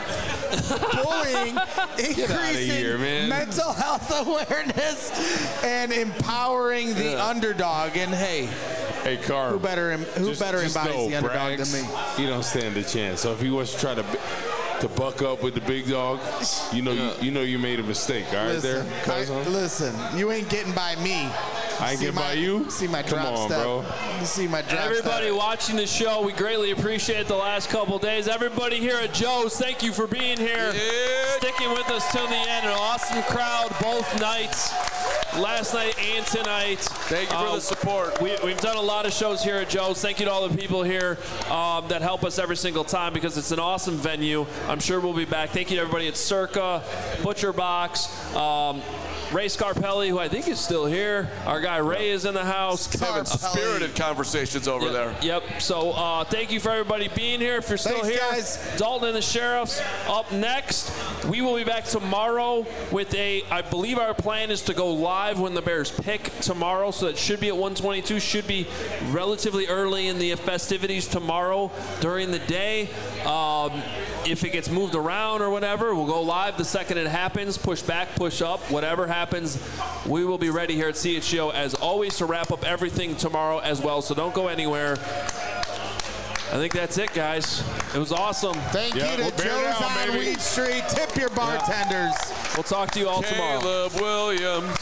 Speaker 4: increasing mental health awareness, and empowering the underdog. And
Speaker 3: Hey, Carl.
Speaker 4: Who better embodies the underdog than me?
Speaker 3: He don't stand a chance. So if he was to try to buck up with the big dog, you know you made a mistake. All right,
Speaker 4: listen, you ain't getting by me.
Speaker 3: I ain't getting by you?
Speaker 4: See my drop step. Bro. You see my drop
Speaker 1: Everybody
Speaker 4: step.
Speaker 1: watching the show, we greatly appreciate the last couple days. Everybody here at Joe's, thank you for being here. Sticking with us till the end. An awesome crowd both nights. Last night and tonight.
Speaker 2: Thank you for the support.
Speaker 1: We've done a lot of shows here at Joe's. Thank you to all the people here that help us every single time because it's an awesome venue. I'm sure we'll be back. Thank you to everybody at Circa, Butcher Box, Ray Scarpelli, who I think is still here. Our guy Ray is in the house.
Speaker 2: Having spirited conversations over there.
Speaker 1: Yep. So thank you for everybody being here. If you're still here,
Speaker 4: guys.
Speaker 1: Dalton and the Sheriffs up next. We will be back tomorrow with I believe our plan is to go live when the Bears pick tomorrow. So that should be at 1:22. Should be relatively early in the festivities tomorrow during the day. If it gets moved around or whatever, we'll go live the second it happens. Push back, push up, whatever happens. We will be ready here at CHGO as always to wrap up everything tomorrow as well. So don't go anywhere. I think that's it, guys. It was awesome.
Speaker 4: Thank you to Joe's on Weed Street. Tip your bartenders.
Speaker 1: We'll talk to you all tomorrow.
Speaker 2: Caleb Williams.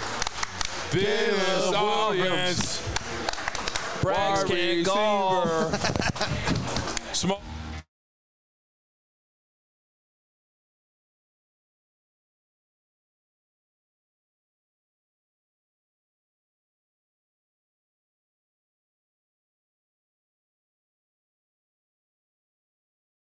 Speaker 3: This offense.
Speaker 1: Braggs can't golf.
Speaker 3: Small.